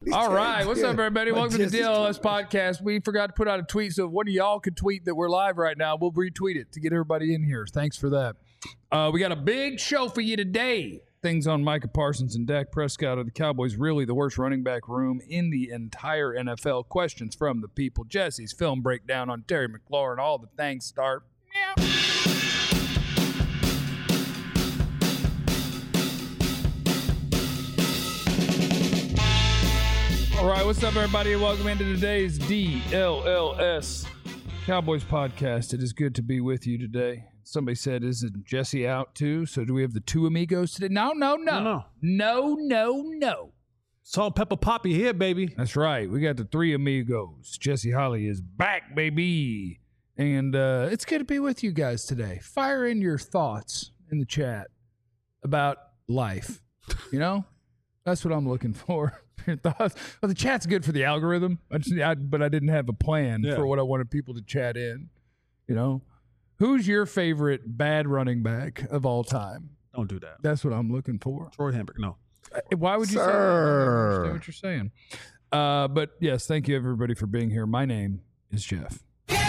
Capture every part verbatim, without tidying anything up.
All right. What's up, everybody? My Welcome to the chest D is L S podcast. We forgot to put out a tweet, so one of y'all could tweet that we're live right now. We'll retweet it to get everybody in here. Thanks for that. Uh, we got a big show for you today. Things on Micah Parsons and Dak Prescott. Are the Cowboys really the worst running back room in the entire N F L? Questions from the people. Jesse's film breakdown on Terry McLaurin. All the things start. Meow. All right, what's up, everybody? Welcome into today's D L L S Cowboys podcast. It is good to be with you today. Somebody said, isn't Jesse out too? So do we have the two amigos today? No, no, no. No, No, no, no. Salt, pepper, poppy here, baby. That's right. We got the three amigos. Jesse Holly is back, baby. And uh, it's good to be with you guys today. Fire in your thoughts in the chat about life. You know? That's what I'm looking for. Your thoughts. Well, the chat's good for the algorithm, I just, I, but I didn't have a plan Yeah. for what I wanted people to chat in. You know? Who's your favorite bad running back of all time? Don't do that. That's what I'm looking for. Troy Hamburg, no. Why would you say that? I don't understand what you're saying. Uh, but yes, thank you everybody for being here. My name is Jeff.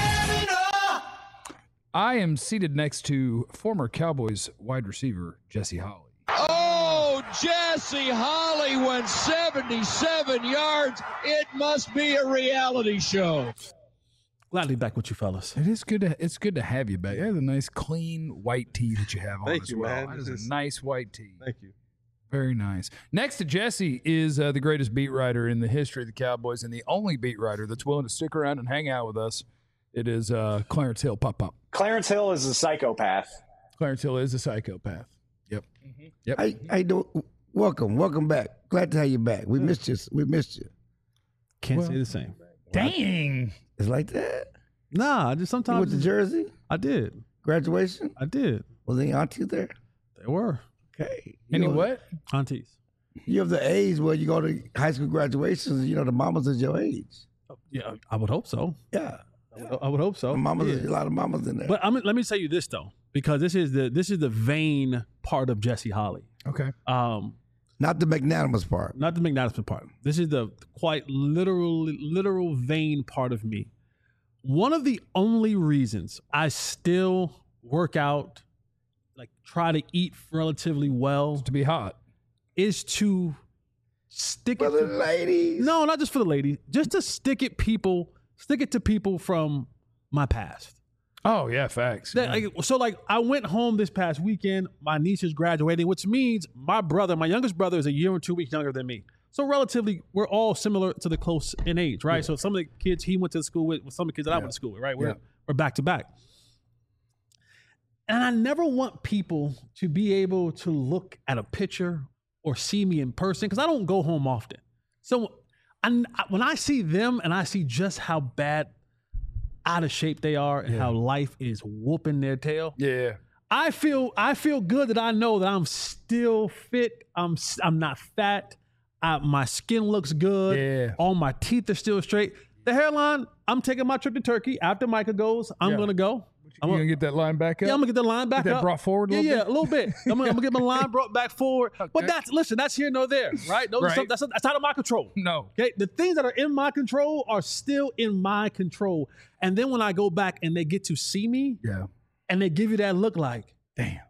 I am seated next to former Cowboys wide receiver Jesse Holly. Oh, Jesse Holly went seventy-seven yards. It must be a reality show. Glad to be back with you fellas. It is good to it's good to have you back. You have a nice clean white tee that you have on Thank as you, well. man. That is This is- a nice white tee. Thank you. Very nice. Next to Jesse is uh, the greatest beat writer in the history of the Cowboys and the only beat writer that's willing to stick around and hang out with us. It is uh, Clarence Hill. Pop up. Clarence Hill is a psychopath. Clarence Hill is a psychopath. Yep. Mm-hmm. Yep. I, I don't. Welcome, welcome back. Glad to have you back. We missed you. We missed you. Can't Well, say the same. Dang. It's like that. Nah, I just You sometimes went to Jersey I did. graduation. I did. Was any auntie there? They were Okay. You Any know, what? aunties. You have the age where you go to high school graduations. You know the mamas is your age. Yeah, I would hope so. Yeah, I would, I would hope so. mamas. Yeah. Is, a lot of mamas in there. But I'm, let me tell you this though, because this is the this is the vain part of Jesse Holly. Okay. Um, Not the magnanimous part. not the magnanimous part. This is the quite literal, literal vain part of me. One of the only reasons I still work out, like try to eat relatively well, To be hot. is to stick For it the to, ladies. no, not just for the ladies, just to stick it people, stick it to people from my past. Oh, yeah, facts. That, like, so like I went home this past weekend. My niece is graduating, which means my brother, my youngest brother, is a year and two weeks younger than me. So relatively, we're all similar to the close in age, right? So some of the kids he went to school with, with some of the kids that I Yeah. went to school with, right? We're Yeah. we're back to back. And I never want people to be able to look at a picture or see me in person because I don't go home often. So I, when I see them and I see just how bad out of shape they are and Yeah. how life is whooping their tail, Yeah. I feel I feel good that I know that I'm still fit. I'm s- I'm not fat. I, my skin looks good. Yeah. All my teeth are still straight. The hairline, I'm taking my trip to Turkey. After Micah goes, I'm Yeah. going to go. You I'm going to get that line back up? Yeah, I'm gonna get the line back that up. brought forward a yeah, little yeah, bit? a little bit. I'm gonna, I'm gonna get my line brought back forward. Okay. But that's listen, that's here nor there, right? Those are Right. some, that's, that's out of my control. No. Okay, the things that are in my control are still in my control. And then when I go back and they get to see me, Yeah. and they give you that look like, Damn.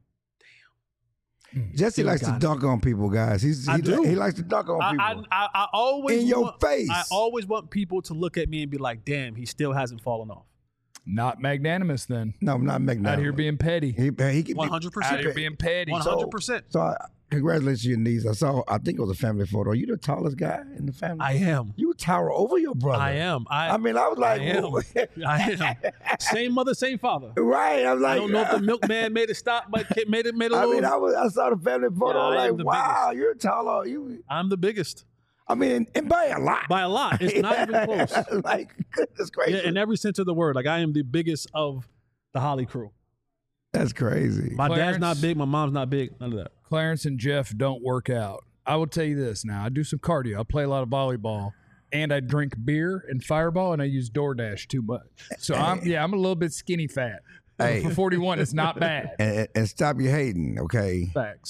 Jesse Still likes to got it. dunk on people, guys. He's, I he, do. he likes to dunk on I, people. I, I, I always In your want, face. I always want people to look at me and be like, "Damn, he still hasn't fallen off." Not magnanimous then. no, I'm not magnanimous. Out here being petty. He, he can One be, hundred Out percent. here being petty. One hundred percent. So I, congratulations to your niece. I saw. I think it was a family photo. Are you the tallest guy in the family? I am. You tower over your brother. I am. I, I mean, I was like, I am. I am. Same mother, same father. right. I was like, I don't know if the milkman made it stop, but it made it made a I little. mean, I was. I saw the family photo. Yeah, I I am was the like, wow, you're taller. You. I'm the biggest I mean, and by a lot. by a lot. It's not even close. like, goodness gracious. Yeah, in every sense of the word. Like I am the biggest of the Holly crew. That's crazy. My Clarence- dad's not big. My mom's not big. None of that. Clarence and Jeff don't work out. I will tell you this now. I do some cardio. I play a lot of volleyball. And I drink beer and Fireball, and I use DoorDash too much. So I'm yeah, I'm a little bit skinny fat. Hey. For forty-one, it's not bad. And, and stop your hating, okay? Facts.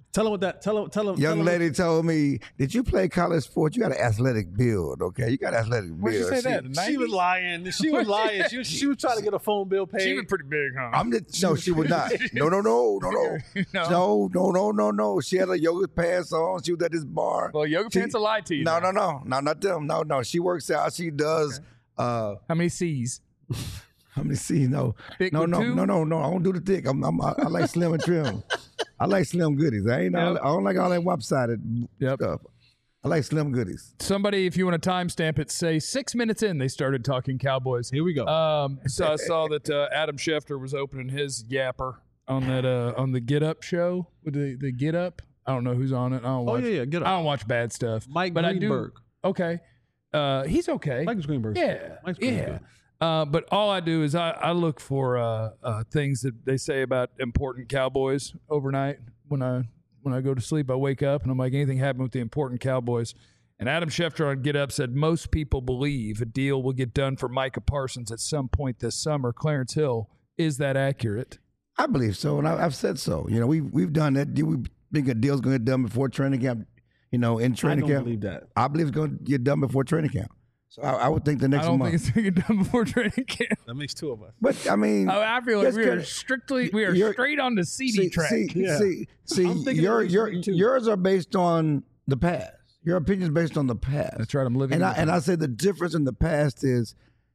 Tell him what that. Tell him. Tell him. Young tell him lady told me, "Did you play college sports? You got an athletic build, okay? You got an athletic build." Where'd you say that? She was lying. She was lying. She was, she was trying to get a phone bill paid. She was pretty big, huh? I'm just, no, she was not. No, no, no, no, no, No? no, no, no, no, no. She had her yoga pants on. She was at this bar. Well, yoga She- pants will lie to you. No, now. no, no, no, not them. No, no. She works out. She does. Uh, How many C's? how many C's? No, Thick no, with no, two? no, no, no. I don't do the thick. I'm, I'm, I, I like slim and trim. I like slim goodies. I ain't. all Yep. I don't like all that lopsided Yep. stuff. I like slim goodies. Somebody, if you want to timestamp it, say six minutes in they started talking Cowboys. Here we go. Um, so I saw that uh, Adam Schefter was opening his yapper on that uh, on the Get Up show with the, the Get Up. I don't know who's on it. I don't oh watch. yeah, yeah. Get I up. don't watch bad stuff. Mike but Greenberg. I do. Okay, uh, he's okay. Mike Greenberg. Yeah, Mike's pretty yeah. good. Uh, but all I do is I, I look for uh, uh, things that they say about important Cowboys overnight. When I when I go to sleep, I wake up and I'm like, anything happened with the important Cowboys? And Adam Schefter on Get Up said most people believe a deal will get done for Micah Parsons at some point this summer. Clarence Hill, is that accurate? I believe so, and I, I've said so. You know, we've we've done that. We think a deal's going to get done before training camp. You know, in I training don't camp, believe that. I believe it's going to get done before training camp. So I, I would think the I next don't month. think it's going to get done before training camp. That makes two of us. But I mean, I, I feel like That's we are good. strictly we are You're- straight on the C D see, track. see, Yeah. see, see, I'm thinking your it makes your me too. yours are based on the past. Your opinion is based on the past. That's right. I'm living. And in I the and I past. say the difference in the past is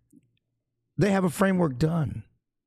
they have a framework done.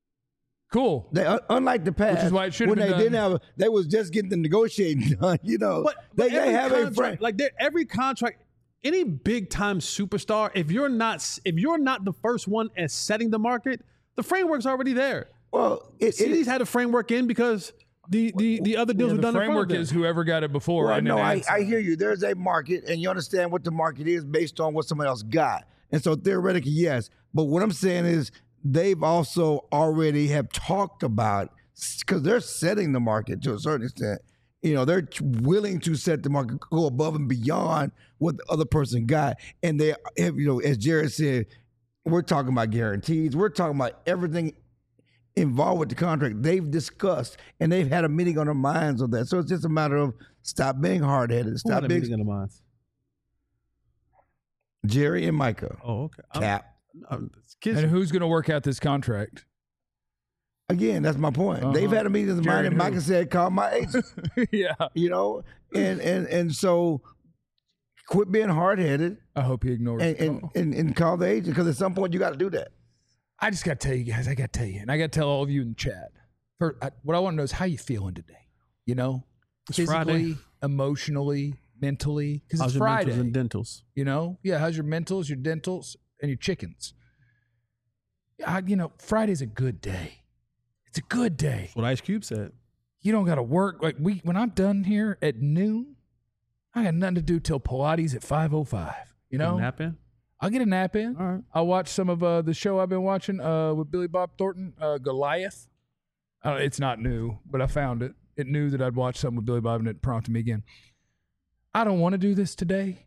Cool. They un- unlike the past, Which is why it should have when been they done. didn't have, a, they was just getting the negotiating done. You know, But, they, but they every have a contract, frame. like they're- every contract, any big time superstar, if you're not if you're not the first one at setting the market, the framework's already there. Well, it, it C D's is. had a framework in because the the, the other deals Yeah, were the done in front of framework them. is whoever got it before. Well, and no, then I, adds- I hear you. There's a market, and you understand what the market is based on what somebody else got. And so theoretically, yes. But what I'm saying is they've also already have talked about, because they're setting the market to a certain extent. You know, they're willing to set the market, go above and beyond what the other person got. And they have, you know, as Jared said, we're talking about guarantees. We're talking about everything involved with the contract they've discussed, and they've had a meeting on their minds on that. So it's just a matter of stop being hard headed, Who stop had a being meeting in the minds? Jerry and Micah. Oh, okay. I'm- Cap. I'm- kids, and who's going to work out this contract? Again, that's my point. Uh-huh. They've had a meeting in their Jerry mind, and and who? Micah said, "Call my agent." yeah. You know, and and and so quit being hard headed I hope he ignores and, the and, call. and and call the agent, because at some point you got to do that. I just got to tell you guys, I got to tell you, and I got to tell all of you in the chat. For, I, what I want to know is how you feeling today. You know, It's physically, Friday. emotionally, mentally, because how's it's your Friday. mentals and dentals? You know, yeah. How's your mentals, your dentals, and your chickens? I, you know, Friday's a good day. It's a good day. That's what Ice Cube said. You don't got to work like we. When I'm done here at noon, I got nothing to do till Pilates at five oh five. You know, Nap in? I'll get a nap in. All right. I'll watch some of uh, the show I've been watching uh, with Billy Bob Thornton, uh, Goliath. I don't, it's not new, but I found it. It knew that I'd watch something with Billy Bob, and it prompted me again. I don't want to do this today,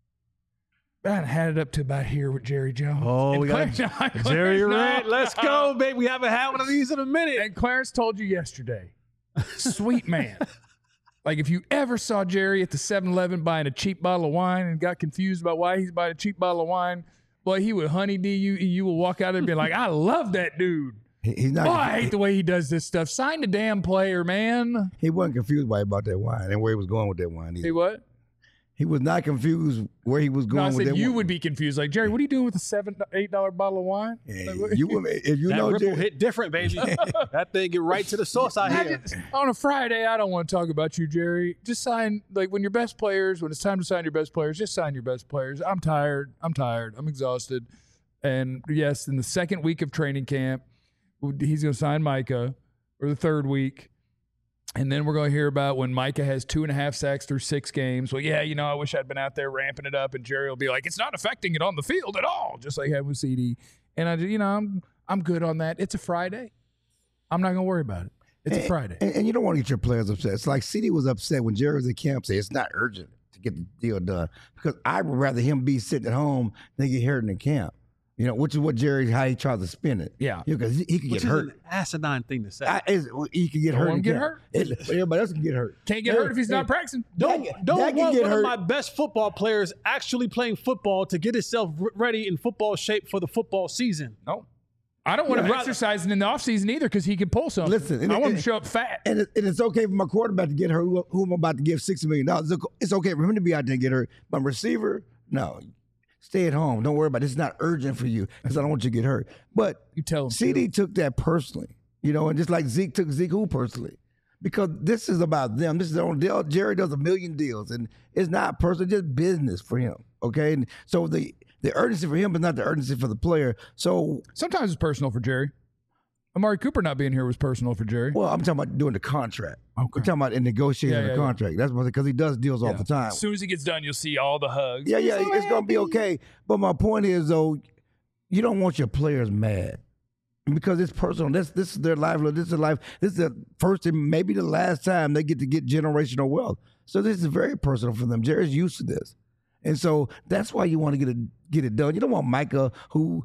but I had it up to about here with Jerry Jones. Oh, And we got Clarence- Jerry Clarence- Red. Let's go, baby. We haven't had one of these in a minute. And Clarence told you yesterday, sweet man. Like if you ever saw Jerry at the seven eleven buying a cheap bottle of wine and got confused about why he's buying a cheap bottle of wine, boy, he would honeydee you. You will walk out and be like, I love that dude. He- He's not. Oh, I hate the way he does this stuff. Sign the damn player, man. He wasn't confused by about that wine and where he was going with that wine. Either. Hey, what? He was not confused where he was going No, I with said that you wine. would be confused. Like, Jerry, what are you doing with a seven, eight dollar bottle of wine? Yeah, Like, what- you would, if you that know, ripple Jerry, hit different, baby. That thing get right to the source out I here. just- on a Friday, I don't want to talk about you, Jerry. Just sign, like, when your best players, when it's time to sign your best players, just sign your best players. I'm tired. I'm tired. I'm exhausted. And yes, in the second week of training camp, he's going to sign Micah, or the third week. And then we're going to hear about when Micah has two and a half sacks through six games. Well, yeah, you know, I wish I'd been out there ramping it up. And Jerry will be like, it's not affecting it on the field at all, just like he had with C D. And I, you know, I'm I'm good on that. It's a Friday. I'm not going to worry about it. It's a Friday. and, and you don't want to get your players upset. It's like C D was upset when Jerry was at camp. Say it's not urgent to get the deal done, because I would rather him be sitting at home than get hurt in the camp. You know, which is what Jerry, how he tries to spin it. Yeah. Because he, he could Which get is hurt. an asinine thing to say. I, is- he could get Don't hurt. want him and to get can't. hurt. It- everybody else can get hurt. Can't get Hey, hurt if he's hey, not practicing. Don't Dak- don't Dak can want get one hurt. of my best football players actually playing football to get himself r- ready in football shape for the football season. No. I don't want him Yeah. exercising in the offseason either because he can pull something. Listen, and I it- want him and- to show up fat. And, it, and it's okay for my quarterback to get hurt, who, who I'm about to give sixty million dollars. It's okay- It's okay for him to be out there and get hurt. But receiver, no. Stay at home. Don't worry about it. It's not urgent for you because I don't want you to get hurt. But You tell him. C D took that personally, you know, and just like Zeke took Zeke who personally. Because this is about them. This is their own deal. Jerry does a million deals, and it's not personal, just business for him. Okay. And so the, the urgency for him is not the urgency for the player. So, Sometimes it's personal for Jerry. Amari Cooper not being here was personal for Jerry. well, I'm talking about doing the contract. Okay. We're talking about in negotiating Yeah, the yeah, yeah. contract. That's because he does deals all the time. As soon as he gets done, you'll see all the hugs. Yeah, yeah, it's gonna be okay. But my point is though, you don't want your players mad because it's personal. This this is their livelihood. This is their life. This is the first and maybe the last time they get to get generational wealth. So this is very personal for them. Jerry's used to this, and so that's why you want to get it get it done. You don't want Micah who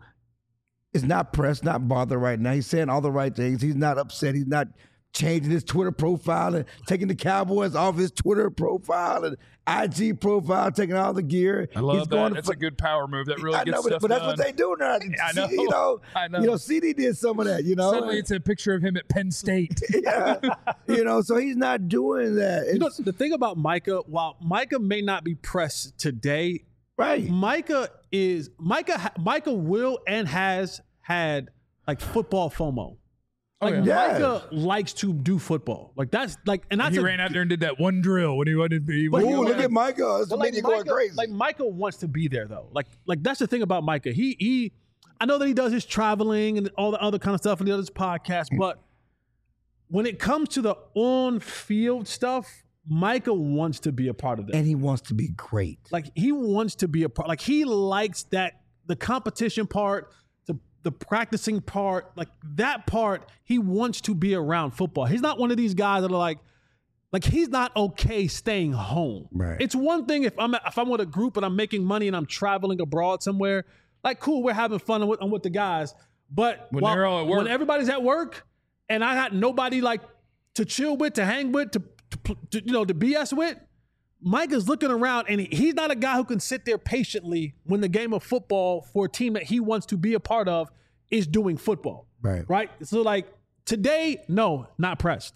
is not pressed, not bothered right now. He's saying all the right things. He's not upset. He's not changing his Twitter profile and taking the Cowboys off his Twitter profile and I G profile, taking all the gear. I love He's that. going That's to, a good power move. That really I gets know, but, stuff but that's done. what they do now. I know. You know, I know. You know, C D did some of that. You know, Suddenly it's a picture of him at Penn State. yeah. You know, so he's not doing that. You know, It's- the thing about Micah, while Micah may not be pressed today, right? Micah is Micah. ha- Micah will and has had like football FOMO. Like yeah. Yes. Micah likes to do football. Like that's like, and that's he a, ran out there and did that one drill when he wanted to be. But he Ooh, look went- at Micah. It's But the media going Micah, crazy. like Micah wants to be there though. Like like that's the thing about Micah. He he I know that he does his traveling and all the other kind of stuff and the other podcasts, but when it comes to the on-field stuff, Micah wants to be a part of that. and he wants to be great. Like he wants to be a part. Like he likes that the competition part, the the practicing part, like that part. He wants to be around football. He's not one of these guys that are like, like he's not okay staying home. Right. It's one thing if I'm if I'm with a group and I'm making money and I'm traveling abroad somewhere. Like cool, we're having fun with, I'm with the guys. But When while- they're all at work. when everybody's at work and I had nobody like to chill with, to hang with, to, to, to you know to B S with. Mike is looking around and he, he's not a guy who can sit there patiently when the game of football for a team that he wants to be a part of is doing football. Right. Right. So like today, no, not pressed.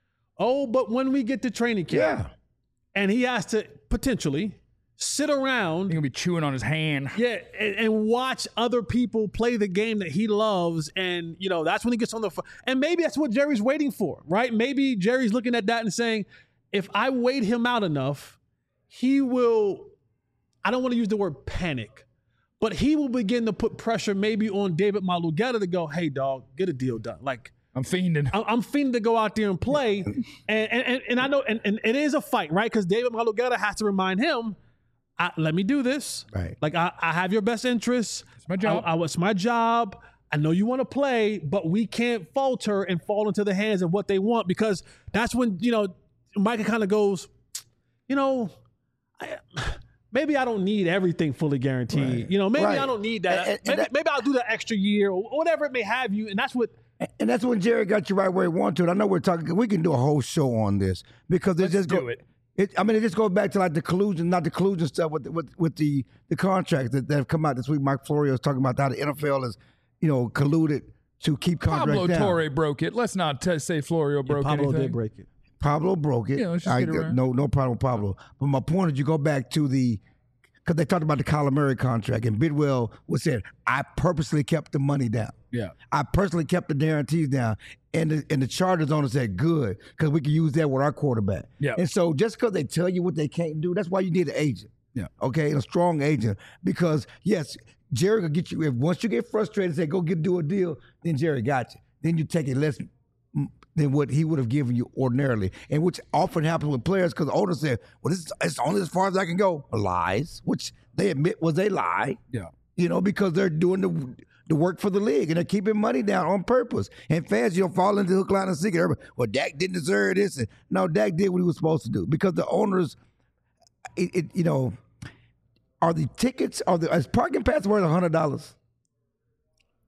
Oh, but when we get to training camp Yeah. and he has to potentially sit around He's gonna be chewing on his hand. yeah, and, and watch other people play the game that he loves, and you know that's when he gets on the phone. And maybe that's what Jerry's waiting for, right? Maybe Jerry's looking at that and saying, if I wait him out enough, he will. I don't want to use the word panic, but he will begin to put pressure maybe on David Malugetta to go, hey, dog, get a deal done. Like I'm fiending. I- I'm fiending to go out there and play, and and and, and I know, and, and it is a fight, right? Because David Malugetta has to remind him. I, let me do this. Right. Like I, I have your best interests. It's my job. I, I, it's my job. I know you want to play, but we can't falter and fall into the hands of what they want because that's when, you know, Micah kind of goes, you know, I, maybe I don't need everything fully guaranteed. Right. You know, maybe Right. I don't need that. And- and maybe, that- maybe I'll do that extra year or whatever it may have you. And that's what, And that's when Jerry got you right where he wanted to. And I know we're talking. We can do a whole show on this because it Let's just do go, it. It, I mean, it just goes back to like the collusion, not the collusion stuff with with with the the contracts that, that have come out this week. Mike Florio is talking about how the N F L is, you know, colluded to keep contracts Pablo down. Torre broke it. Let's not t- say Florio broke Pablo anything. did break it. Pablo broke it. Yeah, let's just I, get it right. no, no problem with Pablo. But my point is, you go back to the because they talked about the Kyler Murray contract, and Bidwell was saying, "I purposely kept the money down. Yeah. I personally kept the guarantees down." And the, and the Chargers owner said, "Good, because we can use that with our quarterback." Yeah. And so just because they tell you what they can't do, that's why you need an agent. Yeah. Okay, a strong agent, because yes, Jerry will get you. If once you get frustrated, and say go get do a deal, then Jerry got you. Then you take it less than what he would have given you ordinarily, and which often happens with players because the owner said, "Well, this is it's only as far as I can go." Lies, which they admit was a lie. Yeah. You know, because they're doing the the work for the league and they're keeping money down on purpose. And fans, you know, fall into the hook, line, and sinker. Everybody, well, Dak didn't deserve this. And no, Dak did what he was supposed to do because the owners, it, it you know, are the tickets are the is parking pass worth a hundred dollars?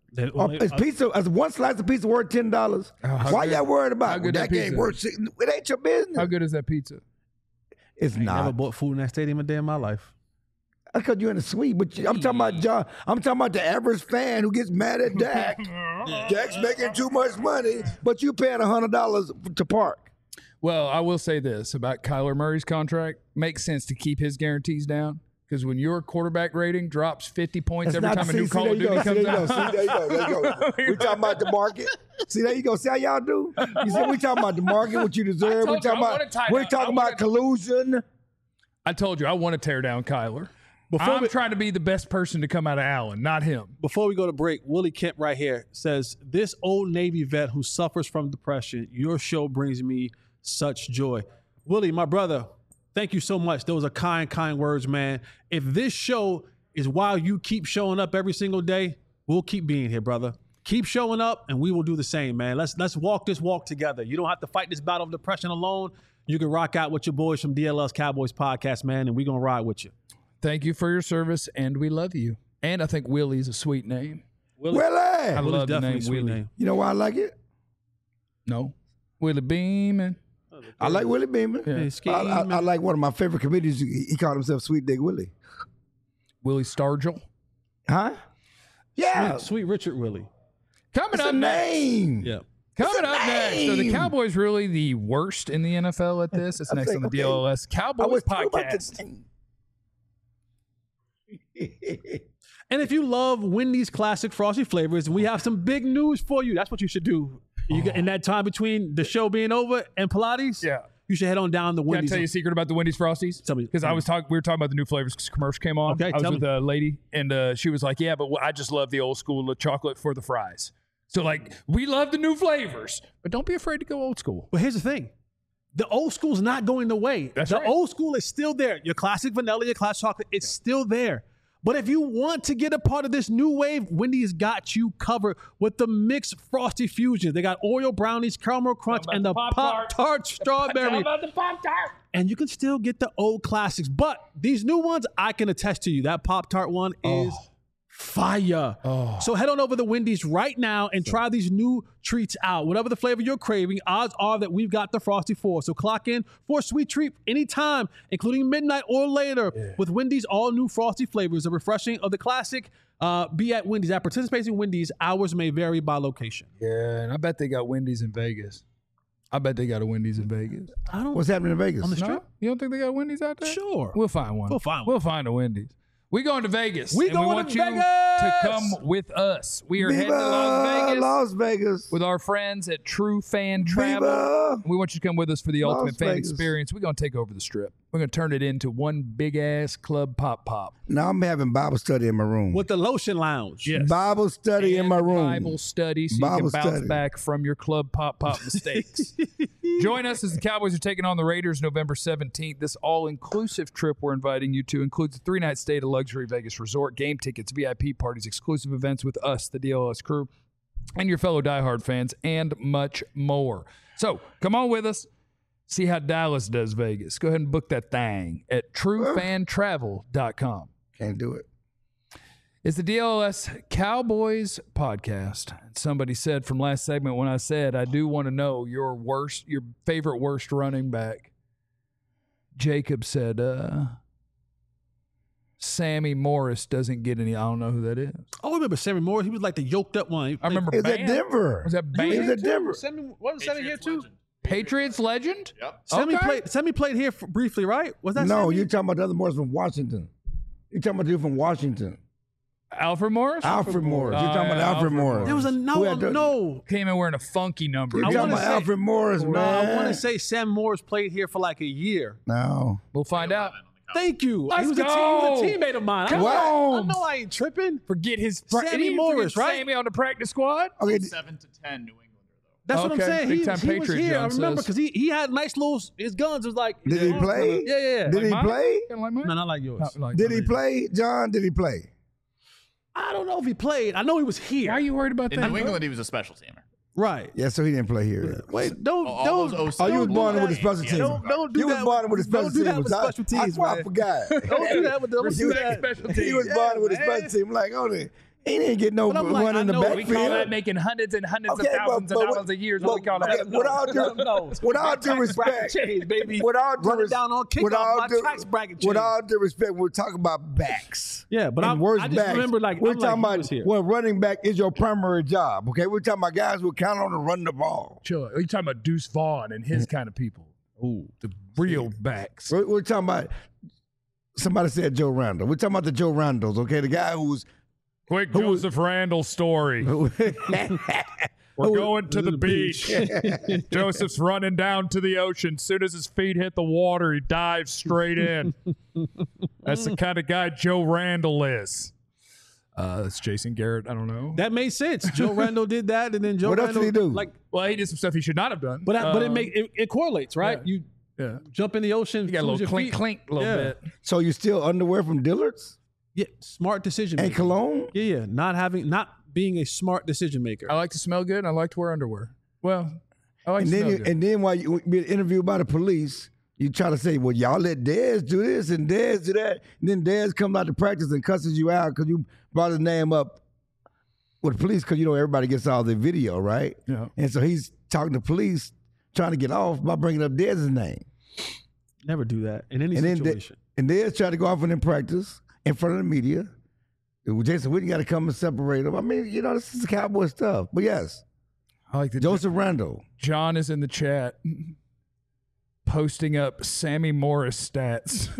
They- Uh, they- is pizza, is one slice of pizza worth ten dollars? how Why good- y'all worried how about good that that game pizza worth? Six, it ain't your business. How good is that pizza? It's I ain't never not. bought food in that stadium a day in my life. That's because you're in the suite. But you- I'm talking about John. I'm talking about the average fan who gets mad at Dak. Dak's making too much money, but you paying a hundred dollars to park. Well, I will say this about Kyler Murray's contract. Makes sense to keep his guarantees down because when your quarterback rating drops fifty points That's every not- time a see, new see, Call there of you go, Duty see, comes there you go, out. see, there you go, there you go. We talking about the market. See, there you go. See how y'all do? You see, we talking about the market, what you deserve. told We you, talking I wanna about, tie we down- I talking wanna- about collusion. I told you I want to tear down Kyler. Before I'm we- trying to be the best person to come out of Allen, not him. Before we go to break, Willie Kemp right here says, this old Navy vet who suffers from depression, your show brings me such joy. Willie, my brother, thank you so much. Those are kind, kind words, man. If this show is why you keep showing up every single day, we'll keep being here, brother. Keep showing up and we will do the same, man. Let's let's walk this walk together. You don't have to fight this battle of depression alone. You can rock out with your boys from D L S Cowboys Podcast, man, and we're going to ride with you. Thank you for your service, and we love you. And I think Willie's a sweet name. Willie. I Willie's love the definitely name a sweet Willie. name. You know why I like it? No, Willie Beeman. I like Willie Beeman. Yeah. Hey, I, I, I scheme. like one of my favorite comedians. He, he called himself Sweet Dick Willie. Willie Stargell. Huh? Yeah. Sweet, Sweet Richard Willie. Coming It's up a next. name. Yeah. Coming It's a up next. So the name. Cowboys really the worst in the N F L at this. It's I next think, on the okay. D L S I Cowboys was talking about podcast. the name. And if you love Wendy's classic frosty flavors, we have some big news for you. That's what you should do. You get, in that time between the show being over and Pilates, Yeah. you should head on down to Can I Wendy's. tell you a secret about the Wendy's Frosties? Tell me. Because I was talking, we were talking about the new flavors because commercial came on. Okay, I was tell with me. a lady, and uh, she was like, "Yeah, but I just love the old school the chocolate for the fries." So like, we love the new flavors, but don't be afraid to go old school. But here's the thing. The old school's not going away. That's the right. old school is still there. Your classic vanilla, your classic chocolate, it's still there. But if you want to get a part of this new wave, Wendy's got you covered with the mixed frosty fusions. They got Oreo brownies, caramel crunch, and the Pop-Tart. Pop-Tart strawberry. the Pop-Tart? And you can still get the old classics. But these new ones, I can attest to you. That Pop-Tart one is fire. So head on over to Wendy's right now and try these new treats out. Whatever the flavor you're craving, odds are that we've got the Frosty for. So clock in for a sweet treat anytime, including midnight or later, with Wendy's all new Frosty flavors. The refreshing of the classic. Uh, be at Wendy's. At participating Wendy's, hours may vary by location. Yeah, and I bet they got Wendy's in Vegas. I bet they got a Wendy's in Vegas. I don't. What's happening in Vegas? On the strip? No? You don't think they got Wendy's out there? Sure. We'll find one. We'll find one. We'll find a Wendy's. We going to Vegas. We and going we want to you Vegas! to come with us. We are heading to Las Viva Vegas Las Vegas. with our friends at True Fan Travel. Viva. We want you to come with us for the Las ultimate fan Vegas. experience. We're going to take over the strip. We're going to turn it into one big ass club pop pop. Now I'm having Bible study in my room. With the Lotion Lounge. Yes. Bible study in my And room. Bible study, so you Bible can bounce study. back from your club pop pop mistakes. Join us as the Cowboys are taking on the Raiders November seventeenth. This all-inclusive trip we're inviting you to includes a three-night stay at a luxury Vegas resort, game tickets, V I P parties, exclusive events with us, the D L S crew, and your fellow diehard fans, and much more. So come on with us. See how Dallas does Vegas. Go ahead and book that thing at true fan travel dot com. Can't do it. It's the D L S Cowboys podcast. Somebody said from last segment when I said, I do want to know your worst, your favorite worst running back. Jacob said, uh, Sammy Morris doesn't get any. I don't know who that is. Oh, I remember Sammy Morris. He was like the yoked up one. He I remember It's Bam. at Denver. Was that He Bam? was at Denver. Sammy, wasn't Sammy here too? Patriots legend? Yep. Sammy Okay. played. Sammy played here for, briefly, right? Was that No, Sammy? you're talking about the other Morris from Washington. You're talking about the dude from Washington. Alfred Morris? Alfred Morris. You're Oh, talking about yeah, Alfred Alfred Morris. There was a Who no, had the- no. Came in wearing a funky number. You're I talking wanna about say- Alfred Morris, No, man. I want to say Sam Morris played here for like a year. No. We'll find out. Thank you. Let's he, was a go. team, he was a teammate of mine. Come I, know, I on. know I ain't tripping. Forget his Sammy and he didn't Morris, forget right? Sammy on the practice squad. Okay. Seven to ten New Englander though. That's what I'm Okay. saying. Big He, time he was Patriot, here. John I remember says. because he, he had nice little, his guns was like. Did he play? Yeah, yeah, yeah. Did he Like mine? play? Kinda like mine? No, not like yours. Not like Did he mine. play, John? Did he play? I don't know if he played. I know he was here. Why are you worried about In that? New England, he was a special teamer. Right. Yeah, so he didn't play here. Wait, don't, All don't. those Oh, you was don't born do with the that. special teams. Don't, don't do You was that. born with the special Don't do that teams. with I- special I teams, swear I man. forgot. Don't do that with the You don't do was- that. special He was teams. born with a Yeah, special man. team. Like, on it. He didn't get no But I'm like, run I in the know- We call that backfield. making hundreds and hundreds Okay, of thousands but- of but- dollars a year is but- what we call that. okay, with all due, no. with all due Tax bracket respect, change, baby. with all due Run it res- down on kickoff, with all my due- tax bracket with change. all due respect, we're talking about backs. Yeah, but and I'm- worse I just backs. remember, like, we're I'm like, talking he about was here. when running back is your primary job. Okay, we're talking about guys who count on to run the ball. Chill. Are you talking about Deuce Vaughn and his kind of people? Ooh, the real backs. We're, we're talking about. Somebody said Joe Randall. We're talking about the Joe Randalls. Okay, the guy who's Quick Joseph Randall story. We're going to the beach. Joseph's running down to the ocean. As soon as his feet hit the water, he dives straight in. That's the kind of guy Joe Randall is. Uh, that's Jason Garrett. I don't know. That made sense. Joe Randall did that, and then Joe What else Randall did he do? like. Well, he did some stuff he should not have done. But I, but it Um, make it, it correlates, right? yeah. You yeah. jump in the ocean. You got a lose little your clink, feet. clink, a little Yeah. bit. so you still underwear from Dillard's Yeah, smart decision and maker. cologne? Yeah, yeah. Not having, not being a smart decision maker. I like to smell good. And I like to wear underwear. Well, I like And to then, smell you, good. and then while you being interviewed by the police, you try to say, "Well, y'all let Dez do this and Dez do that," and then Dez comes out to practice and cusses you out because you brought his name up with the police because you know everybody gets all the video, right? Yeah. And so he's talking to police, trying to get off by bringing up Dez's name, Never do that in any and then De- situation. and Dez tried to go off in practice in front of the media. Jason Witten got to come and separate them. I mean, you know, this is Cowboy stuff. But yes, I like the Joseph Randall. John is in the chat posting up Sammy Morris stats.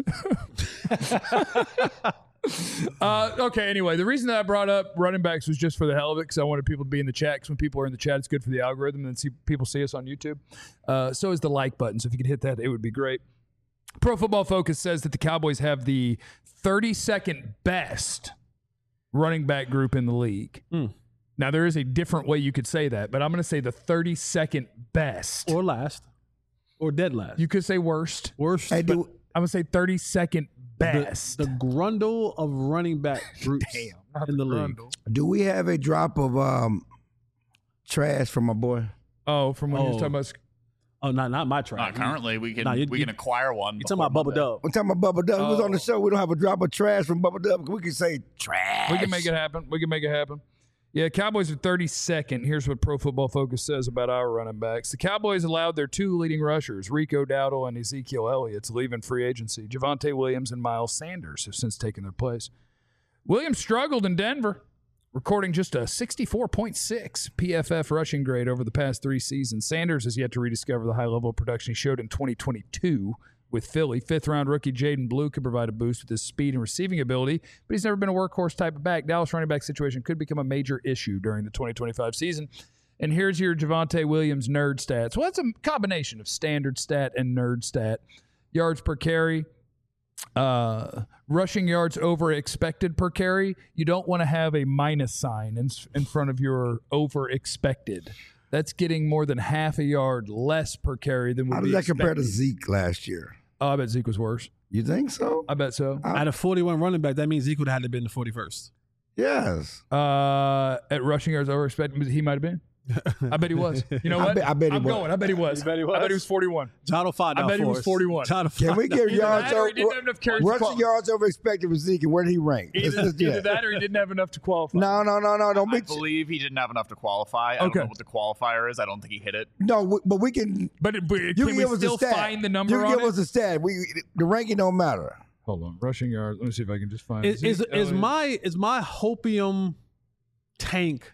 uh, okay, anyway, the reason that I brought up running backs was just for the hell of it because I wanted people to be in the chat because when people are in the chat, it's good for the algorithm and see people see us on YouTube. Uh, so is the like button. So if you could hit that, it would be great. Pro Football Focus says that the Cowboys have the thirty-second best running back group in the league. Mm. Now, there is a different way you could say that, but I'm going to say the thirty-second best. Or last. Or dead last. You could say worst. Worst. Hey, but do, I'm going to say thirty-second the, best. the grundle of running back groups not in the league. Grundle. do we have a drop of um, trash from my boy? Oh, from when you Oh. were talking about. Oh, not not my Not track. currently. We can Nah, you- we you- can acquire one. You talking about before Bubba Monday. Dub? I'm talking about Bubba Dub. He was on the Oh. show. We don't have a drop of trash from Bubba Dub. We can say trash. We can make it happen. We can make it happen. Yeah, Cowboys are thirty-second. Here's what Pro Football Focus says about our running backs. The Cowboys allowed their two leading rushers, Rico Dowdle and Ezekiel Elliott, to leave in free agency. Javonte Williams and Miles Sanders have since taken their place. Williams struggled in Denver, recording just a sixty-four point six P F F rushing grade over the past three seasons. Sanders has yet to rediscover the high level of production he showed in twenty twenty-two with Philly. Fifth-round rookie Jaden Blue could provide a boost with his speed and receiving ability, but he's never been a workhorse type of back. Dallas running back situation could become a major issue during the twenty twenty-five season. And here's your Javonte Williams nerd stats. Well, it's a combination of standard stat and nerd stat. Yards per carry, uh, rushing yards over expected per carry. You don't want to have a minus sign in, in front of your over expected. That's getting more than half a yard less per carry than would How be does that compare to expected. Zeke last year? Oh, I bet Zeke was worse. You think so? I bet so. Out of forty-one running back, that means Zeke would have had to have been the forty-first. Yes. Uh, at rushing yards over expected, he might have been. I bet he was. You know I what? bet- I bet he I'm was. going. I bet he was. You bet he I bet he was? was forty-one. John will find I out bet he for was us. forty-one. John will Can find we give out. Either yards that or he over didn't have enough carries to rushing qualify. yards over expected with Zeke, and where did he rank? Let's- Either, let's do either that. that or he didn't have enough to qualify. No, no, no, no. Don't I be. believe he didn't have enough to qualify. I Okay. don't know what the qualifier is. I don't think he hit it. No, we- but we can. But, it, but You can can we give us still a stat. find the number You can on give it? us a stat. We the ranking don't matter. Hold on. Rushing yards. Let me see if I can just find Is is, Zeke is Elliott. my is my hopium tank?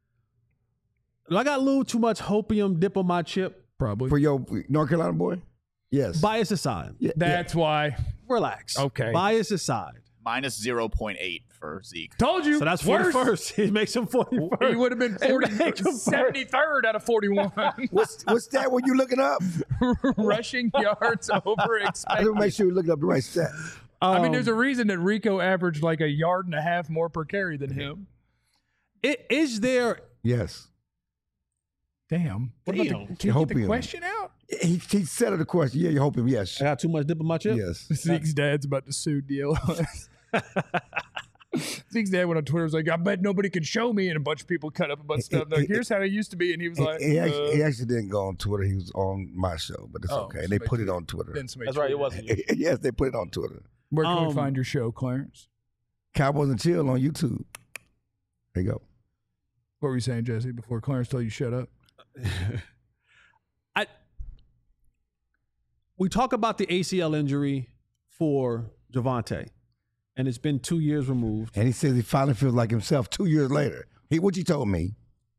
Do I got a little too much hopium dip on my chip? Probably. For your North Carolina boy? Yes. Bias aside, Yeah, That's why. relax. Okay. Bias aside. Minus zero point eight for Zeke. Told you. So that's worse. forty-first. He makes him forty-first. He would have been forty, It makes him seventy-third out of forty-one. What's what's that? Were you looking up? Rushing yards over I just expected. want to make sure you look up the right stat. I mean, there's Um, a reason that Rico averaged like a yard and a half more per carry than him. i- Is there? Yes. Damn. What about the, Damn. can you get the Hopium. question out? He he settled the question. Yeah, you hope him. Yes. I got too much dip on my chip. Yes. Zeke's dad's about to sue D L S. Zeke's dad went on Twitter, was like, I bet nobody can show me. And a bunch of people cut up a bunch of stuff. They're like, here's how he used to be. And he was He, like, he actually, uh, he actually didn't go on Twitter. He was on my show, but it's Oh, okay. They somebody put it tweeted. on Twitter. then somebody That's right. It tweeted. wasn't you. Yes, they put it on Twitter. Where can we Um, find your show, Clarence? Cowboys and Chill on YouTube. There you go. What were you saying, Jesse, before Clarence told you shut up? I we talk about the A C L injury for Javonte, and it's been two years removed. And he says he finally feels like himself two years later. He, what you told me.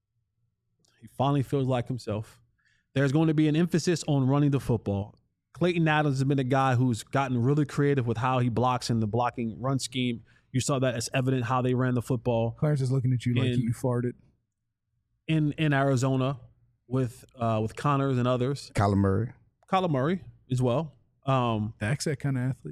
He finally feels like himself. There's going to be an emphasis on running the football. Clayton Adams has been a guy who's gotten really creative with how he blocks in the blocking run scheme. You saw that as evident how they ran the football. Clarence is looking at you like In- you farted. in in Arizona with uh, with Connors and others. Kyler Murray. Kyler Murray as well. Um, Dak's that kind of athlete.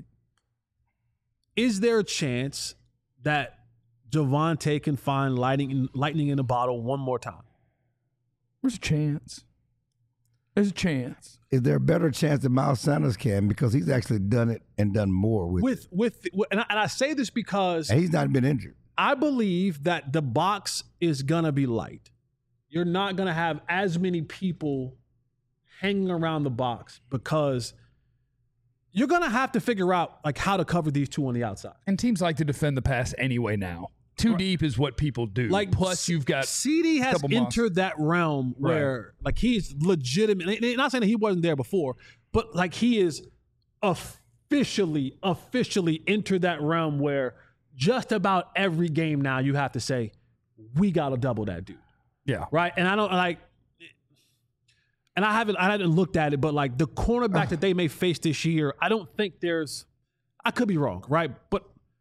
is there a chance that Javonte can find lightning lightning in a bottle one more time? There's a chance. There's a chance. Is there a better chance that Miles Sanders can because he's actually done it and done more with, With with, with and, I, and I say this because and he's not been injured. I believe that the box is gonna be light. You're not gonna have as many people hanging around the box because you're gonna have to figure out like how to cover these two on the outside. And teams like to defend the pass anyway now. Two Right. deep is what people do. Like Plus, you've got C D has couple months. entered that realm where like he's legitimate. Not saying that he wasn't there before, but like he is officially, officially entered that realm where just about every game now you have to say, we got to double that dude. yeah. Right. And I don't like, and I haven't, I haven't looked at it, but like the cornerback that they may face this year, I don't think there's, I could be wrong. Right. But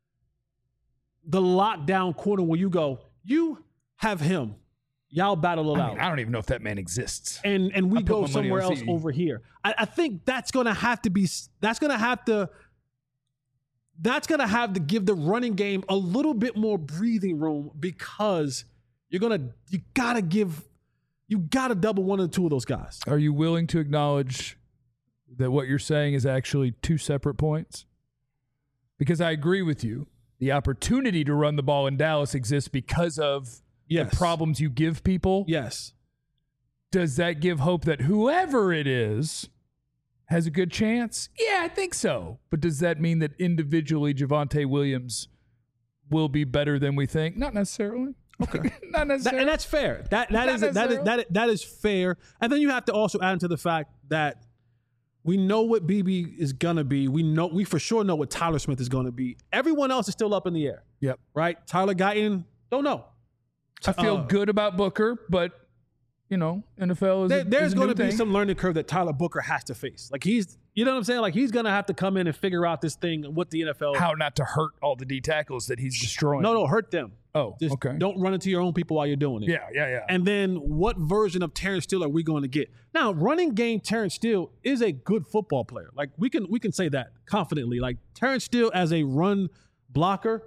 the lockdown corner where you go, you have him, y'all battle it I, out. mean, I don't even know if that man exists. and and we I put go my money somewhere on else C D. over here. I, I think that's gonna have to be that's gonna have to that's gonna have to give the running game a little bit more breathing room because you're gonna you gotta give you gotta double one or two of those guys. Are you willing to acknowledge that what you're saying is actually two separate points? Because I agree with you. The opportunity to run the ball in Dallas exists because of Yes. the problems you give people. Yes. Does that give hope that whoever it is has a good chance? Yeah, I think so. But does that mean that individually Javonte Williams will be better than we think? Not necessarily. Okay. Not That, necessarily. and that's fair. That that Not is that is necessarily. that is, that is fair. And then you have to also add into the fact that we know what B B is gonna be. We know we for sure know what Tyler Smith is gonna be. Everyone else is still up in the air, Yep. right? Tyler Guyton, don't know. I feel Uh, good about Booker, but, you know, N F L is There, a, there's is a going new to be thing. some learning curve that Tyler Booker has to face. Like he's, you know what I'm saying? Like he's going to have to come in and figure out this thing what the N F L. How not to hurt all the D tackles that he's destroying. No, no, hurt them. Oh, Just okay. don't run into your own people while you're doing it. Yeah, yeah, yeah. And then what version of Terrence Steele are we going to get? Now, running game Terrence Steele is a good football player. Like we can we can say that confidently. Like Terrence Steele as a run blocker,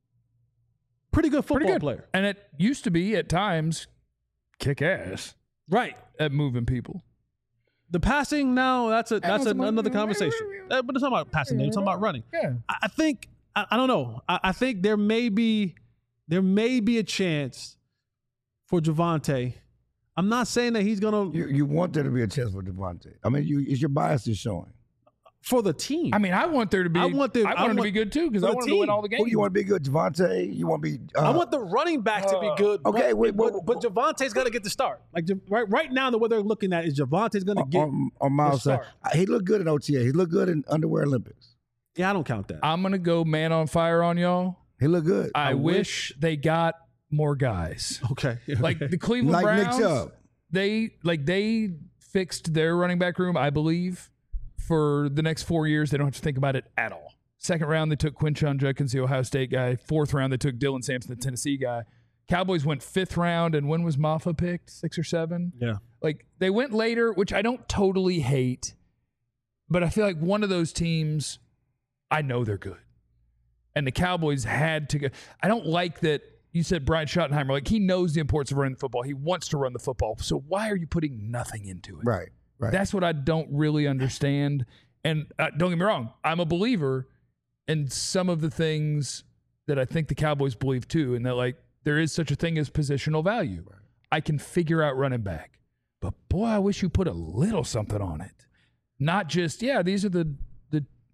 pretty good football Pretty good. player. And it used to be at times kick ass Right. at moving people. The passing now, that's a that's that's a, about- another conversation. Uh, But it's not about passing, it's not about running. Yeah. I I think I, I don't know. I, I think there may be there may be a chance for Javonte. I'm not saying that he's gonna You, you want there to be a chance for Devontae. I mean, you, is your bias is showing. for the team. I mean, I want there to be. I want there- I I want him to want- be good too because for I the want him to win team. all the games. Who do you want to be good? Devontae? You want to be? Uh, I want the running back to be good. okay, but, wait, but, wait, but Javonte's gonna get the start. Like Ja- right right now, the way they're looking at is Javonte's gonna get. on, on Miles. the side. start. He looked good in O T A. He looked good in Underwear Olympics. yeah, I don't count that. I'm gonna go man on fire on y'all. He looked good. I, wish they got more guys. okay, Like the Cleveland Like Nick Browns, Chubb. they like they fixed their running back room, I believe, for the next four years. They don't have to think about it at all. Second round, they took Quinshon Judkins, the Ohio State guy. Fourth round, they took Dylan Sampson, the Tennessee guy. Cowboys went fifth round, and when was Maffa picked? Six or seven? yeah. Like they went later, which I don't totally hate, but I feel like one of those teams, I know they're good. And the Cowboys had to go. I don't like that you said Brian Schottenheimer, like he knows the importance of running the football. He wants to run the football. So why are you putting nothing into it? Right, right. That's what I don't really understand. And uh, don't get me wrong, I'm a believer in some of the things that I think the Cowboys believe too, and that like there is such a thing as positional value. Right. I can figure out running back. But boy, I wish you put a little something on it. Not just, yeah, these are the the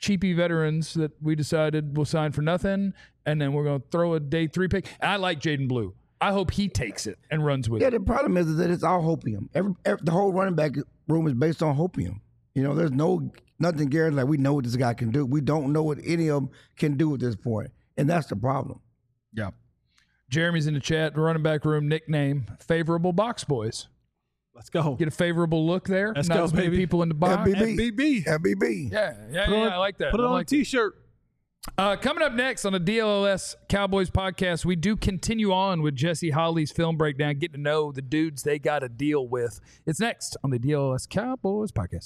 cheapy veterans that we decided will sign for nothing, and then we're going to throw a day three pick. And I like Jaden Blue. I hope he takes it and runs with Yeah, it. the problem is that it's all hopium. Every, every the whole running back room is based on hopium. You know, there's no nothing guaranteed. Like we know what this guy can do. We don't know what any of them can do at this point, and that's the problem. Yeah. Jeremy's in the chat. The running back room nickname: Favorable Box Boys. Let's go. Get a favorable look there. Let's Not go, as many baby. people in the box. F B B. F B B. F B B. Yeah, yeah, Put yeah. on- I like that. Put it I on like a T-shirt. Uh, coming up next on the D L L S Cowboys podcast, we do continue on with Jesse Holley's film breakdown, getting to know the dudes they got to deal with. It's next on the D L L S Cowboys podcast.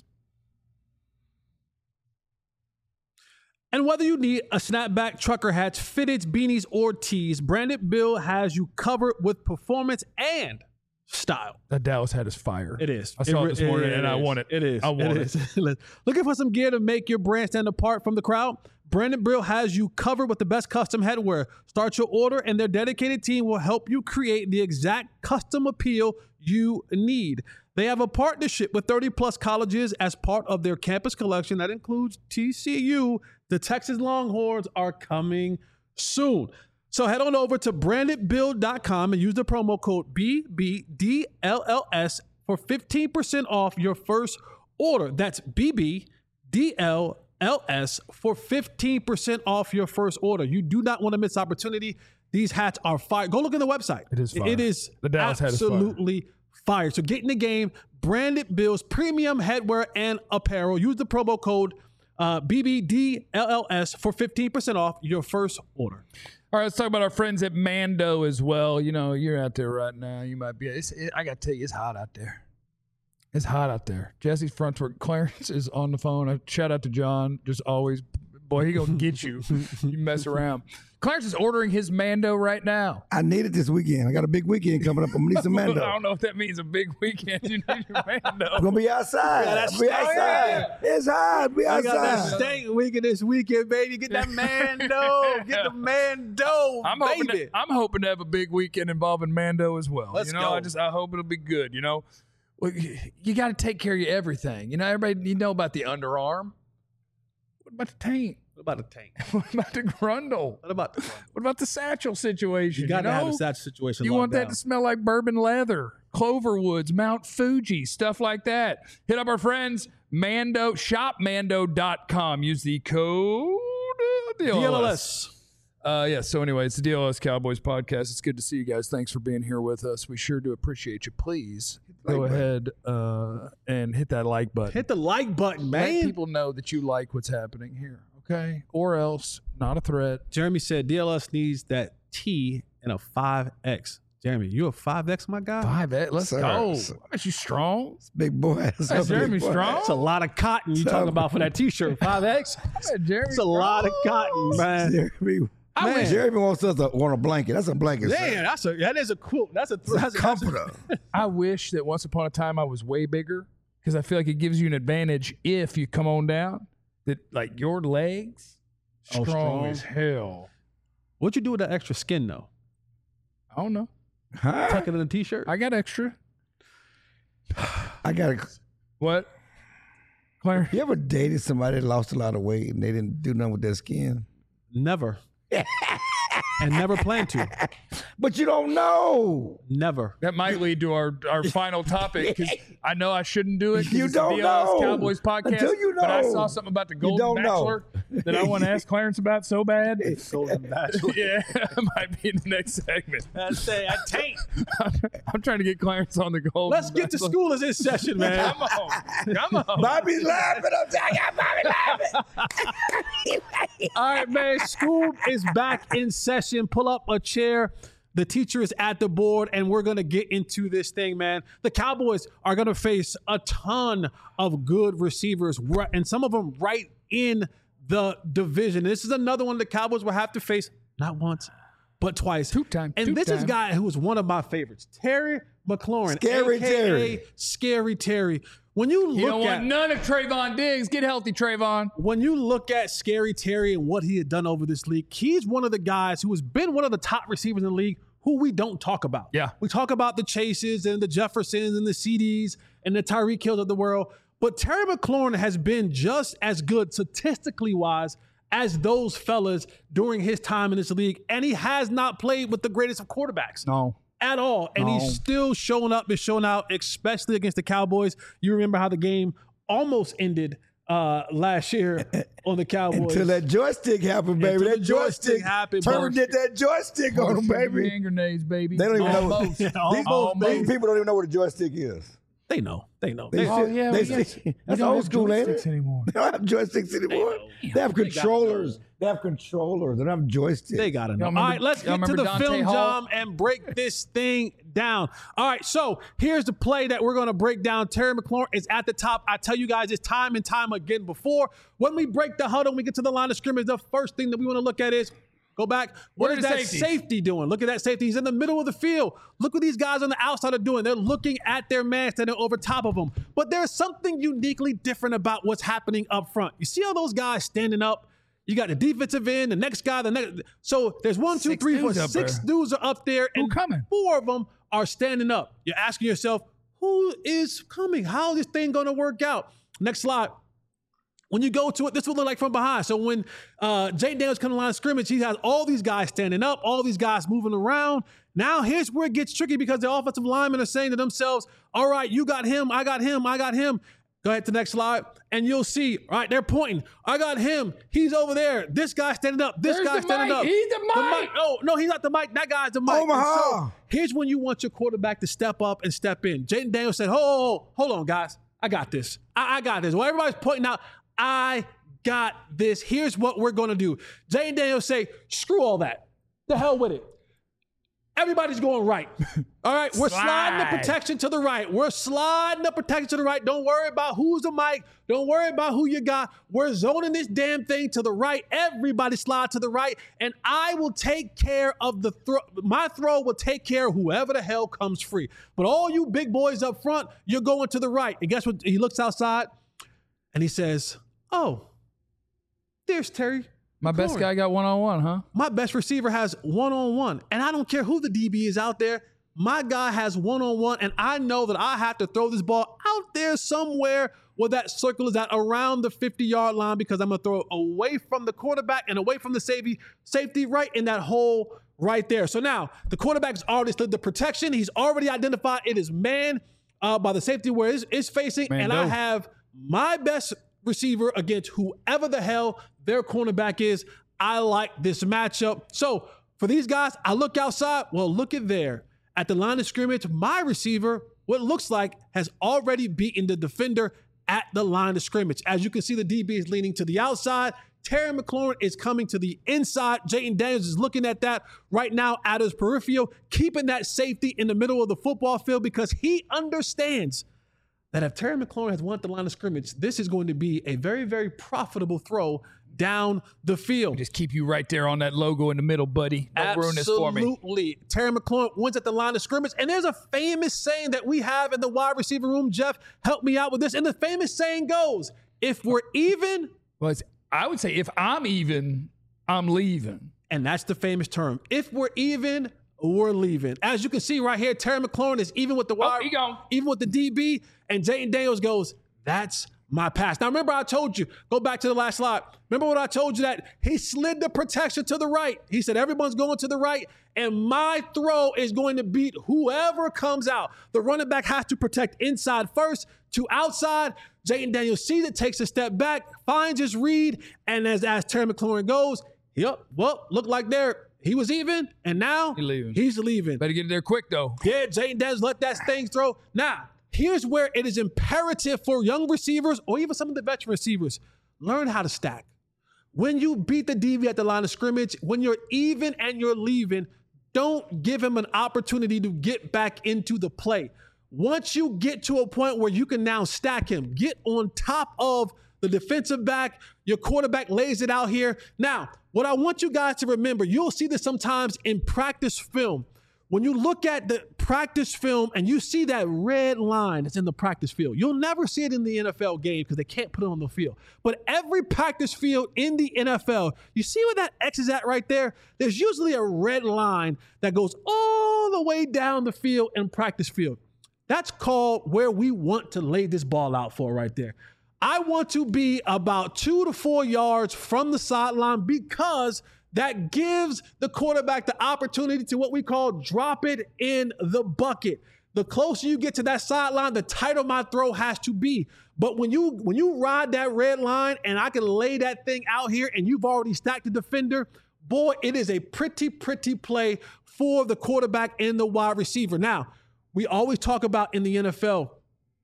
And whether you need a snapback, trucker hats, fitteds, beanies, or tees, Branded Bill has you covered with performance and style. That Dallas hat is fire. It is. I saw it, re- this morning, and I is. want it. It is. I want it. is. Looking for some gear to make your brand stand apart from the crowd? Branded Bill has you covered with the best custom headwear. Start your order, and their dedicated team will help you create the exact custom appeal you need. They have a partnership with thirty plus colleges as part of their campus collection that includes T C U. The Texas Longhorns are coming soon. So head on over to branded bill dot com and use the promo code B B D L L S for fifteen percent off your first order. That's B B D L L S for fifteen percent off your first order. You do not want to miss opportunity. These hats are fire. Go look on the website. It is fire. It is The Dallas hat is fire. absolutely fire. So get in the game. Branded Bill's premium headwear and apparel. Use the promo code uh, B B D L L S for fifteen percent off your first order. All right, let's talk about our friends at Mando as well. You know, you're out there right now. You might be. It's, it, I got to tell you, it's hot out there. It's hot out there. Jesse's front work. Clarence is on the phone. I shout out to John. Just always, boy, he gonna get you. You mess around. Clarence is ordering his Mando right now. I need it this weekend. I got a big weekend coming up. I'm gonna need some Mando. I don't know if that means a big weekend. You need your Mando. I'm gonna be outside. that's be steak. outside. It's hot. Be I got that outside. steak weekend this weekend, baby. Get that Mando. Get the Mando, I'm hoping. baby. To, I'm hoping to have a big weekend involving Mando as well. Let's you know, go. I just I hope it'll be good. You know, well, you got to take care of your everything. You know, everybody. You know about the underarm. What about the taint? What about the tank? What about the grundle? What about the What about the satchel situation? You got to know? have a sad situation. You locked want that down. to smell like bourbon leather, Cloverwoods, Mount Fuji, stuff like that. Hit up our friends, Mando, shop mando dot com. Use the code uh, D L L S. D L L S. Uh, yeah, so anyway, it's the D L L S Cowboys podcast. It's good to see you guys. Thanks for being here with us. We sure do appreciate you. Please go Like ahead uh, and hit that like button. Hit the like button, Let man. people know that you like what's happening here, okay? Or else, not a threat. Jeremy said D L S needs that T in a five X. Jeremy, you a five X, my guy? Five, eh, let's Sir, go. sir. Aren't you strong? Big boy. That's Hey, Jeremy strong? That's a lot of cotton you talking about for that T-shirt. five X? Yeah, Jeremy That's a lot of cotton, man. Jeremy, I wish- Jeremy wants us to want a blanket. That's a blanket. sir. Damn, that's a that is a cool. That's a It's a that's a, comforter. I wish that once upon a time I was way bigger because I feel like it gives you an advantage if you come on down. That like your legs Oh, strong, strong. as hell. What'd you do with that extra skin though? I don't know. Huh? Tuck it in a T-shirt. I got extra. I got to. What? Claire? You ever dated somebody that lost a lot of weight and they didn't do nothing with their skin? Never. And never plan to. But you don't know. Never. That might lead to our, our final topic because I know I shouldn't do it. 'cause You it's the don't D L S know. Cowboys podcast. Until you But I know. saw something about the You Golden don't know. Bachelor that I want to ask Clarence about so bad. Golden Bachelor. Yeah, it might be in the next segment. That's say I taint. I'm, I'm trying to get Clarence on the Golden Let's get to Bachelor. school as this session, man. Come on. Come on. Bobby's laughing. I'm telling you, Bobby laughing. All right, man. School is back in session. Pull up a chair. The teacher is at the board, and we're going to get into this thing, man. The Cowboys are going to face a ton of good receivers, ri- and some of them right in the division. This is another one the Cowboys will have to face not once, but twice. Two times, And two this is a times. guy who is one of my favorites, Terry McLaurin. Scary A K A Terry. Scary Terry. When you look You don't at want none of Trayvon Diggs. Get healthy, Trayvon. when you look at Scary Terry and what he had done over this league, he's one of the guys who has been one of the top receivers in the league who we don't talk about. Yeah. We talk about the Chases and the Jeffersons and the C Ds and the Tyreek Hills of the world, But Terry McLaurin has been just as good statistically wise as those fellas during his time in this league. And he has not played with the greatest of quarterbacks. No. At all. And No. he's still showing up and showing out, especially against the Cowboys. You remember how the game almost ended uh, last year on the Cowboys. Until that joystick happened, baby. Until that the joystick joystick happened, Turner boy. did that joystick on them, baby. Hand grenades, baby. They don't even know. Almost. These, Almost. these people don't even know what a joystick is. They know. They know. They They- Oh, sit- yeah, they we got- sit- we that's don't old have school, ain't it? joysticks anymore. They don't have joysticks anymore. They, know. have They gotta controllers. They have controllers. They don't have joysticks. They gotta know. Y'all All remember- right, let's y'all get to remember the Dante film, Hall? John, and break this thing down. All right, so here's the play that we're going to break down. Terry McLaurin is at the top. I tell you guys this time and time again before. When we break the huddle, we get to the line of scrimmage, the first thing that we want to look at is go back. What Where is are the that safeties? safety doing? Look at that safety. He's in the middle of the field. Look what these guys on the outside are doing. They're looking at their man standing over top of them. But there's something uniquely different about what's happening up front. You see all those guys standing up? You got the defensive end, the next guy, the next. So there's one, two, Six three, four, dudes up six there. dudes are up there, Who and coming? four of them are standing up. You're asking yourself, who is coming? How is this thing going to work out? Next slide. When you go to it, this will look like from behind. So when uh, Jayden Daniels comes to the line of scrimmage, he has all these guys standing up, all these guys moving around. Now here's where it gets tricky because the offensive linemen are saying to themselves, all right, you got him, I got him, I got him. Go ahead to the next slide, and you'll see, all right, they're pointing. I got him. He's over there. This guy's standing up. This There's guy's the standing mic. up. He's the mic. Oh, no, he's not the mic. That guy's the mic. And Omaha. so here's when you want your quarterback to step up and step in. Jayden Daniels said, oh, hold on, guys. I got this. I, I got this. Well, everybody's pointing out, I got this. Here's what we're going to do. Jayden Daniels say, screw all that. The hell with it. Everybody's going right. All right, we're sliding the Slide. protection to the right. We're sliding the protection to the right. Don't worry about who's the mic. Don't worry about who you got. We're zoning this damn thing to the right. Everybody slide to the right, and I will take care of the throw. My throw will take care of whoever the hell comes free. But all you big boys up front, you're going to the right. And guess what? He looks outside, and he says, oh, there's Terry. My best McLaurin. guy got one-on-one, huh? My best receiver has one-on-one, and I don't care who the D B is out there. My guy has one-on-one, and I know that I have to throw this ball out there somewhere where that circle is at around the fifty-yard line because I'm going to throw it away from the quarterback and away from the safety, safety right in that hole right there. So now the quarterback's already slid the protection. He's already identified it is man uh, by the safety where it's, it's facing, Man, and no. I have my best receiver against whoever the hell their cornerback is. I like this matchup. So for these guys, I look outside. Well, look at there. At the line of scrimmage, my receiver, what looks like, has already beaten the defender at the line of scrimmage. As you can see, the D B is leaning to the outside. Terry McLaurin is coming to the inside. Jayden Daniels is looking at that right now at his peripheral, keeping that safety in the middle of the football field because he understands that if Terry McLaurin has won at the line of scrimmage, this is going to be a very, very profitable throw down the field. Just keep you right there on that logo in the middle, buddy. Don't ruin this for me. Absolutely. Terry McLaurin wins at the line of scrimmage. And there's a famous saying that we have in the wide receiver room. Jeff, help me out with this. And the famous saying goes, if we're even, Well, it's, I would say if I'm even, I'm leaving. and that's the famous term, if we're even, we're leaving. As you can see right here, Terry McLaurin is even with the wide, he gone. even with the D B, and Jayden Daniels goes, that's my pass. Now, remember I told you, go back to the last slide. Remember what I told you that he slid the protection to the right. He said, everyone's going to the right, and my throw is going to beat whoever comes out. The running back has to protect inside first to outside. Jayden Daniels sees it, takes a step back, finds his read, and as, as Terry McLaurin goes, yep, well, look like there. He was even, and now He leaving. he's leaving. Better get there quick, though. Yeah, Jayden Daniels let that thing throw. Now, here's where it is imperative for young receivers or even some of the veteran receivers, learn how to stack. When you beat the D B at the line of scrimmage, when you're even and you're leaving, don't give him an opportunity to get back into the play. Once you get to a point where you can now stack him, get on top of the defensive back, your quarterback lays it out here. Now, what I want you guys to remember, you'll see this sometimes in practice film. When you look at the practice film and you see that red line that's in the practice field, you'll never see it in the N F L game because they can't put it on the field. But every practice field in the N F L, you see where that X is at right there? There's usually a red line that goes all the way down the field in practice field. That's called where we want to lay this ball out for right there. I want to be about two to four yards from the sideline because that gives the quarterback the opportunity to what we call drop it in the bucket. The closer you get to that sideline, the tighter my throw has to be. But when you when you ride that red line and I can lay that thing out here and you've already stacked the defender, boy, it is a pretty, pretty play for the quarterback and the wide receiver. Now, we always talk about in the N F L,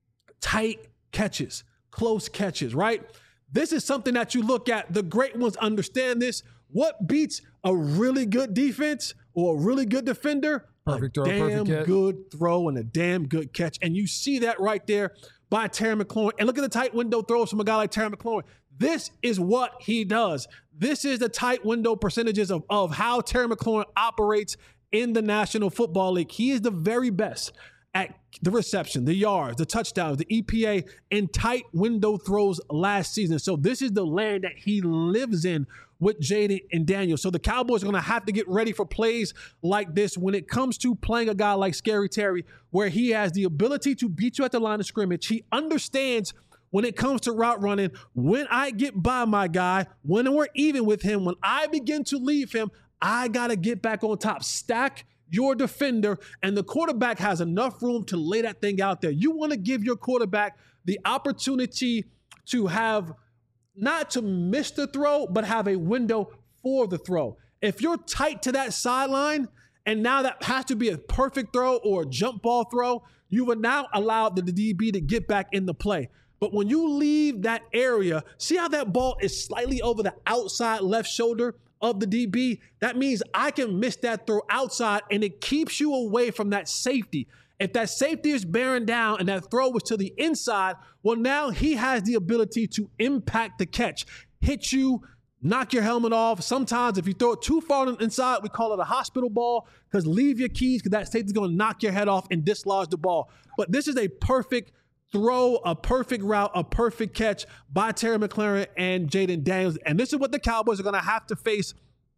tight catches, close catches, right? This is something that you look at. The great ones understand this. What beats a really good defense or a really good defender? Perfect a throw, damn perfect catch. good throw and a damn good catch. And you see that right there by Terry McLaurin. And look at the tight window throws from a guy like Terry McLaurin. This is what he does. This is the tight window percentages of, of how Terry McLaurin operates in the National Football League. He is the very best at the reception, the yards, the touchdowns, the E P A, and tight window throws last season. So this is the land that he lives in with Jaden and Daniel. So the Cowboys are going to have to get ready for plays like this when it comes to playing a guy like Scary Terry, where he has the ability to beat you at the line of scrimmage. He understands when it comes to route running, when I get by my guy, when we're even with him, when I begin to leave him, I got to get back on top. Stack your defender, and the quarterback has enough room to lay that thing out there. You want to give your quarterback the opportunity to have, not to miss the throw, but have a window for the throw. If you're tight to that sideline, and now that has to be a perfect throw or a jump ball throw, you would now allow the D B to get back in the play. But when you leave that area, see how that ball is slightly over the outside left shoulder of the D B? That means I can miss that throw outside, and it keeps you away from that safety. If that safety is bearing down and that throw was to the inside, well, now he has the ability to impact the catch, hit you, knock your helmet off. Sometimes if you throw it too far inside, we call it a hospital ball, because leave your keys, because that safety is going to knock your head off and dislodge the ball. But this is a perfect throw, a perfect route, a perfect catch by Terry McLaurin and Jaden Daniels. And this is what the Cowboys are going to have to face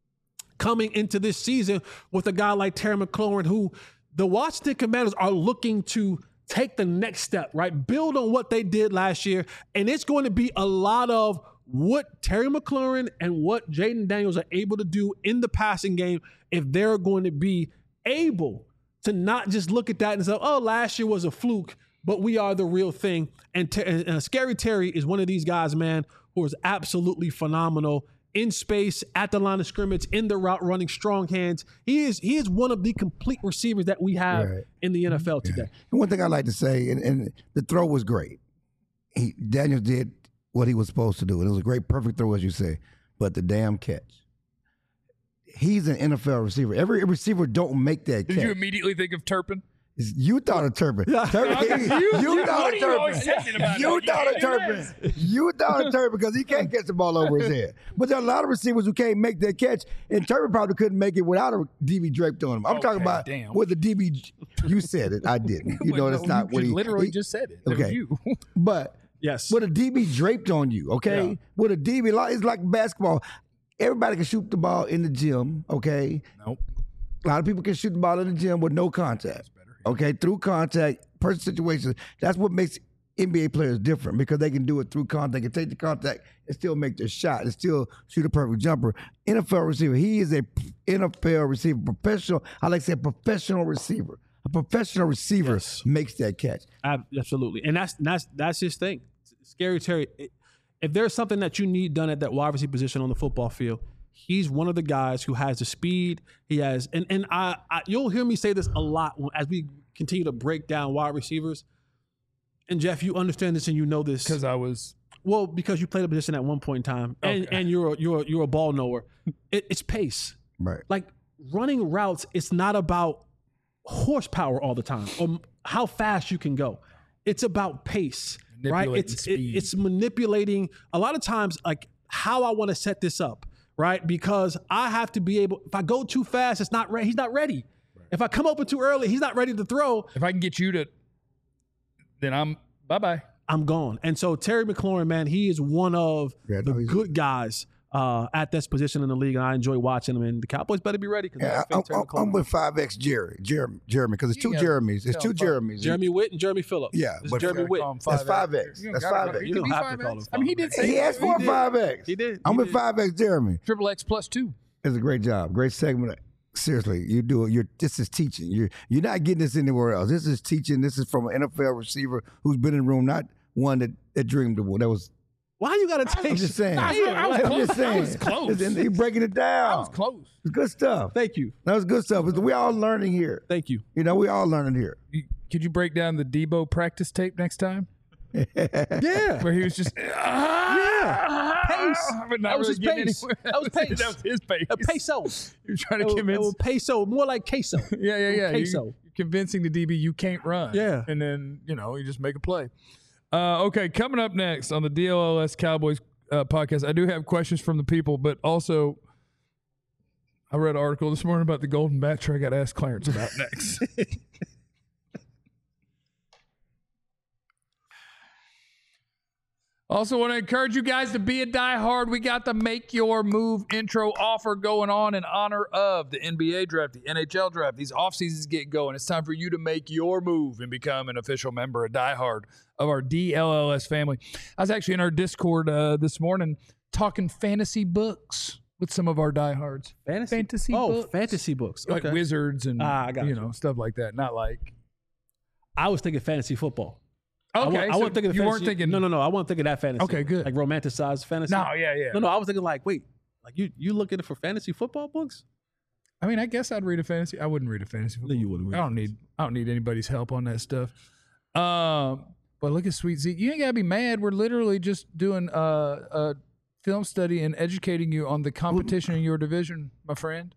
coming into this season with a guy like Terry McLaurin, who the Washington Commanders are looking to take the next step, right? Build on what they did last year. And it's going to be a lot of what Terry McLaurin and what Jaden Daniels are able to do in the passing game if they're going to be able to not just look at that and say, oh, last year was a fluke, but we are the real thing. And, Ter- and uh, Scary Terry is one of these guys, man, who is absolutely phenomenal in space, at the line of scrimmage, in the route running, strong hands. He is he is one of the complete receivers that we have Right. in the N F L today. Yeah. And one thing I like to say, and, and the throw was great. He, Daniels did what he was supposed to do. And it was a great, perfect throw, as you say. But the damn catch. He's an N F L receiver. Every receiver don't make that Did catch. you immediately think of Turpin? You thought of Turpin. Turpin You- you, you- thought what of are you always Turpin. talking about? You You thought of can't do Turpin. You thought of Turpin because he can't catch the ball over his head. But there are a lot of receivers who can't make that catch, and Turpin probably couldn't make it without a D B draped on him. I'm talking Okay, about damn. with the D B. You said it. I didn't. You know Wait, that's no, not you what he literally he- just said it. That was Okay. you. But Yes. with a D B draped on you, okay? Yeah. With a D B, like- it's like basketball. Everybody can shoot the ball in the gym, okay? Nope. A lot of people can shoot the ball in the gym with no contact. Okay, through contact, person situations. That's what makes N B A players different, because they can do it through contact. They can take the contact and still make their shot and still shoot a perfect jumper. N F L receiver. He is a N F L receiver, professional. I like to say a professional receiver. A professional receiver Yes. makes that catch. Ab- Absolutely. And that's that's that's his thing. Scary Terry, it- if there's something that you need done at that wide receiver position on the football field, he's one of the guys who has the speed. He has, and and I, I you'll hear me say this a lot when, as we continue to break down wide receivers. And Jeff, you understand this and you know this. Because I was. Well, because you played a position at one point in time, and, Okay. and you're a, you're a, you're a ball knower. It, it's pace. Right. Like running routes, it's not about horsepower all the time or how fast you can go. It's about pace, right? Manipulating It's it, speed. it's manipulating a lot of times like how I want to set this up, right? Because I have to be able. If I go too fast, it's not ready. He's not ready. If I come open too early, he's not ready to throw. If I can get you to, then I'm bye bye. I'm gone. And so Terry McLaurin, man, he is one of Yeah, the no, he's- good guys uh, at this position in the league, and I enjoy watching them. And the Cowboys better be ready because Yeah, I'm, I'm, I'm with five X Jerry, Jeremy, Jeremy, because it's You two gotta Jeremys. It's tell two five- Jeremys. Jeremy Witt and Jeremy Phillips. Yeah, It's but- Jeremy Gotta Witt. call him That's five X. You don't That's gotta- five X. he You could don't be have to five call X. him I mean, he five did X. say He asked for a did. five X. He did. I'm He with did. five X Jeremy. Triple X plus two. It's a great job, great segment. Seriously, you do it. You're this is teaching. You're you're not getting this anywhere else. This is teaching. This is from an N F L receiver who's been in the room, not one that, that dreamed of. That was. Why you got to take? I'm just saying. I was- I was I'm close. just saying. I was close. And you're breaking it down. That was close. It's good stuff. Thank you. That was good stuff. We all learning here. Thank you. You know, we all learning here. You, could you break down the Debo practice tape next time? Yeah. Where he was just Yeah. Pace. but not That was really his getting pace. anywhere. That was pace. That was his pace. A peso. He was trying to It was- convince. it was peso, more like queso. yeah, yeah, yeah. You- Queso. you're convincing the D B you can't run. Yeah. and then you know you just make a play. Uh, okay, coming up next on the D L L S Cowboys uh, podcast, I do have questions from the people, but also I read an article this morning about the Golden Bachelor. I got to ask Clarence about next. Also, want to encourage you guys to be a diehard. We got the Make Your Move intro offer going on in honor of the N B A draft, the N H L draft. These off seasons get going. It's time for you to make your move and become an official member, a diehard of our D L L S family. I was actually in our Discord uh, this morning talking fantasy books with some of our diehards. Fantasy, Fantasy oh, books. fantasy books. Like Okay. wizards and Ah, I got you you. know stuff like that. Not like I was thinking fantasy football. I okay. wa- I, so wasn't thinking. you fantasy, weren't thinking. No, no, no. I wasn't thinking that fantasy. Okay, good. Like romanticized fantasy. No, yeah, yeah. No, no. I was thinking like, wait, like you you looking for fantasy football books? I mean, I guess I'd read a fantasy. I wouldn't read a fantasy. No, you wouldn't. I don't need I don't need anybody's help on that stuff. Um, but look at Sweet Zeke. You ain't gotta be mad. We're literally just doing a, a film study and educating you on the competition in your division, my friend.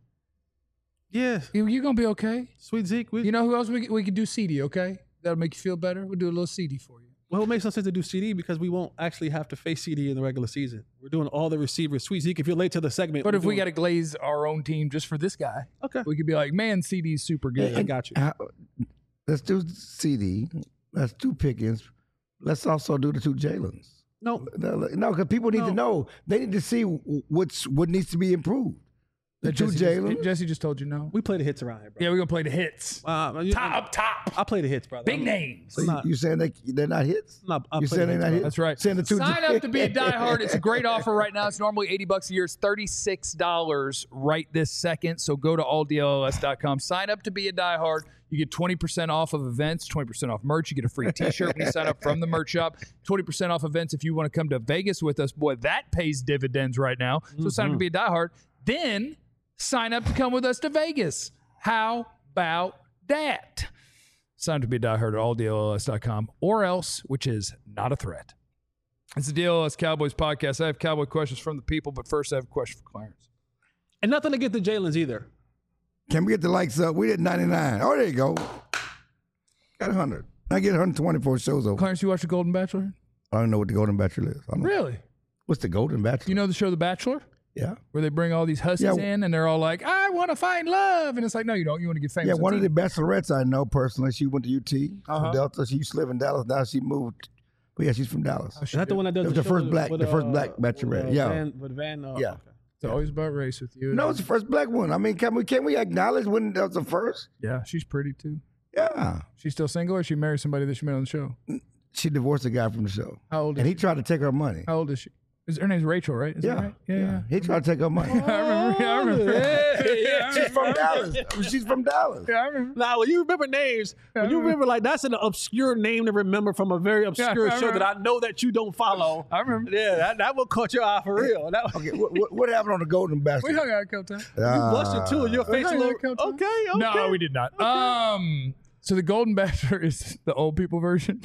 Yeah, You you gonna be okay. sweet Zeke. We, You know who else we we could do C D? Okay, that'll make you feel better. We'll do a little C D for you. well, it makes no sense to do C D because we won't actually have to face C D in the regular season. We're doing all the receivers. Sweet Zeke, if you're late to the segment, But we're if we doing- got to glaze our own team just for this guy, okay, we could be like, man, C D's super good. I got you. How- Let's do C D. Let's do Pickens. Let's also do the two Jalen's. No, No, because people need No. to know. They need to see what's what needs to be improved. The two Jesse just, Jalen. Jesse just told you no. we play the hits around here, bro. Yeah, we're gonna play the hits. Uh, you- Top up top. I play the hits, brother. Big I'm- names. So I'm you, not- you saying they they're not hits? I'm not- I You play saying the they're hits, not brother. hits? That's right. Saying the two Sign up to be a diehard. It's a great offer right now. It's normally eighty bucks a year. It's thirty-six dollars right this second. So go to all D L L S dot com. Sign up to be a diehard. You get twenty percent off of events, twenty percent off merch. You get a free t-shirt when you sign up from the merch shop. twenty percent off events if you want to come to Vegas with us. Boy, that pays dividends right now. So sign up to be a diehard. Then sign up to come with us to Vegas. How about that? Sign up to be a diehard at all D L L S dot com or else, which is not a threat. It's the D L L S Cowboys podcast. I have Cowboy questions from the people, but first I have a question for Clarence. And nothing to get the Jalen's either. Can we get the likes up? We did ninety-nine. Oh, there you go. Got one hundred. I get one hundred twenty-four shows over. Clarence, you watch The Golden Bachelor? I don't know what the Golden Bachelor is. I don't know. Really? What's the Golden Bachelor? You know the show The Bachelor? yeah. Where they bring all these hussies Yeah. in and they're all like, I want to find love. And it's like, no, you don't. You want to get famous. Yeah, on one of T V. the bachelorettes I know personally. She went to U T, from Uh-huh. Delta. She used to live in Dallas. Now she moved. But yeah, she's from Dallas. Oh, Is that the one that does It was the, the first show black- with, the first uh, black bachelorette, with, uh, yeah. Van, with Van, uh, Yeah. okay. It's always about race with you. No, it's the first black one. I mean, can we can we acknowledge when that was the first? Yeah, she's pretty too. Yeah. She's still single or she married somebody that she met on the show? She divorced a guy from the show. How old is And he she? tried to take her money. How old is she? Is her name's Rachel, right? Is that Yeah. right? Yeah, yeah. He tried to take her money. I remember. Yeah, I remember. Yeah, She's from Dallas. She's from Dallas. Yeah, I remember. Now, when you remember names, when you remember like that's an obscure name to remember from a very obscure I show remember. that I know that you don't follow. I remember. Yeah, that, that will caught your eye for real. That, Okay, what, what, what happened on the Golden Bachelor? We hung out a couple times. you blushed it too, and your face a hung out little. a couple Okay, times. okay. No, we did not. Um, so the Golden Bachelor is the old people version.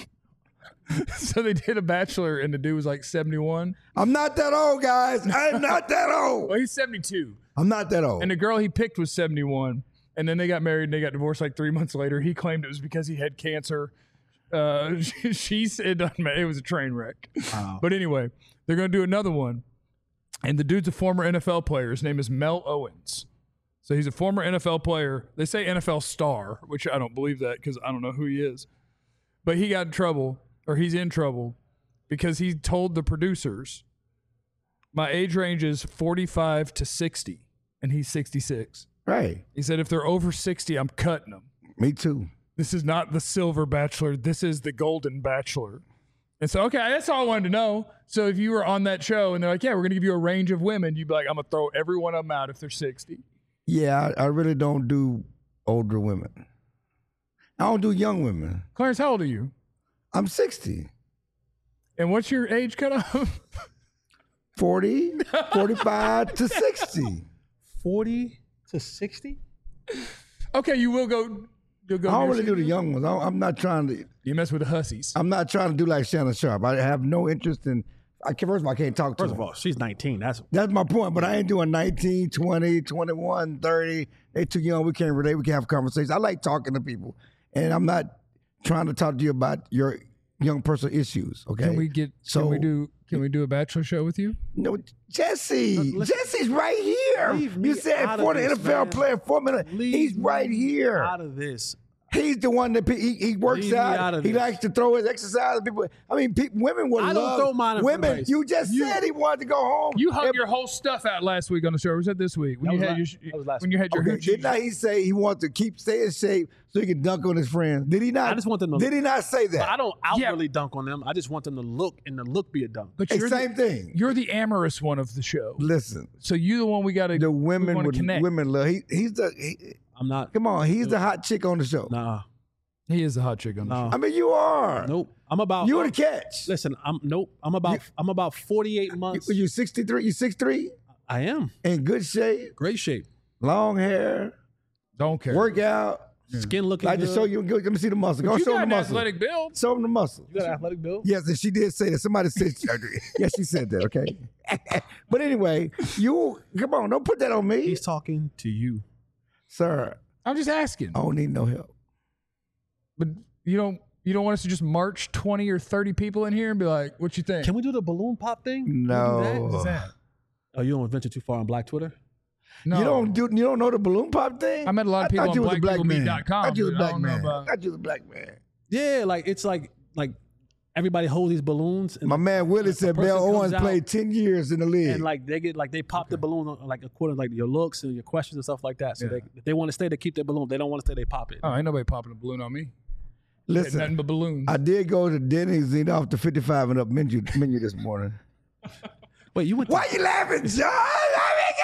So they did a Bachelor, and the dude was like seventy-one. I'm not that old, guys. I'm not that old. Well, he's seventy-two, I'm not that old. and the girl he picked was seventy-one. And then they got married, and they got divorced like three months later. He claimed it was because he had cancer. Uh, she, she said it doesn't matter. It was a train wreck. Wow. But anyway, they're going to do another one. And the dude's a former N F L player. His name is Mel Owens. So he's a former N F L player. They say N F L star, which I don't believe that because I don't know who he is. But he got in trouble, or he's in trouble, because he told the producers My age range is forty-five to sixty, and he's sixty-six. Right. He said if they're over sixty, I'm cutting them. Me too. This is not the silver bachelor. This is the golden bachelor. And so, okay, that's all I wanted to know. So if you were on that show and they're like, yeah, we're going to give you a range of women, you'd be like, I'm going to throw every one of them out if they're sixty. Yeah, I, I really don't do older women. I don't do young women. Clarence, how old are you? I'm sixty. And what's your age cutoff? forty, forty-five to sixty. forty to sixty? Okay, you will go. You'll go I don't near really do the sixty? young ones. I, I'm not trying to. You mess with the hussies. I'm not trying to do like Shannon Sharp. I have no interest in. I can, first of all, I can't talk to First them. of all, she's nineteen. That's That's my point. But I ain't doing nineteen, twenty, twenty-one, thirty. They too young. We can't relate. We can have conversations. I like talking to people, and I'm not trying to talk to you about your young person issues. Okay. Can we get? So- can we do? Can we do a bachelor show with you? No, Jesse. listen- Jesse's right here. Leave me You said out of for the this, N F L man. player, four minutes. Leave He's right me here. out of this. He's the one that pe- he, he works Leave me out. out of He this. likes to throw his exercise. People, I mean, pe- women would I don't love throw mine in front of women. race. You just You- said he wanted to go home. You hung If- your whole stuff out last week on the show. Or was that this week? When That you was had la- your that was last when you had your Okay, hoochie. did not he say he wants to keep stay in shape so he can dunk on his friends? Did he not? I just want them to- Did he not say But I that? don't Yeah. outwardly dunk on them. I just want them to look and the look be a dunk. But Hey, you're same the, thing. you're the amorous one of the show. Listen, So you the one we got to. the women wanna would connect. women love. He, he's the. He, I'm not. come on, he's the hot chick on the show. Nah. He is the hot chick on the No. show. I mean, you are. Nope. I'm about. You were the catch. Listen, I'm nope. I'm about. I'm about forty-eight months. You, you sixty-three. You six three. I am In good shape. great shape. Long hair. Don't care. Workout. Skin looking I good. just show you. Let me see the muscle. Go you show got him an the muscle. athletic build. Show him the muscle. You got an athletic build. Yes, and she did say that. Somebody said, yes, she said that. Okay. But anyway, you come on. Don't put that on me, He's talking to you. sir. I'm just asking. I don't need no help. But you don't. You don't want us to just march twenty or thirty people in here and be like, "What you think?" Can we do the balloon pop thing? Can we do that? No. What is that? Oh, you don't venture too far on Black Twitter. No. You don't do. You don't know the balloon pop thing. I met a lot of I people thought on you was a black people meet man. dot com, I thought you was a but I black don't know man. about- I thought you was a black man. Yeah, like it's like like everybody hold these balloons and My man Willie said person Bell comes Owens out played ten years in the league. and like they get like they pop the balloon on, like according to like your looks and your questions and stuff like that. So Yeah. they if they want to stay, they keep their balloon. If they don't want to stay, they pop it. Oh, ain't nobody popping a balloon on me. Nothing Listen, but balloons. I did go to Denny's and eat off the fifty-five and up menu menu this morning. Wait, you went? To, Why you laughing, John? I mean,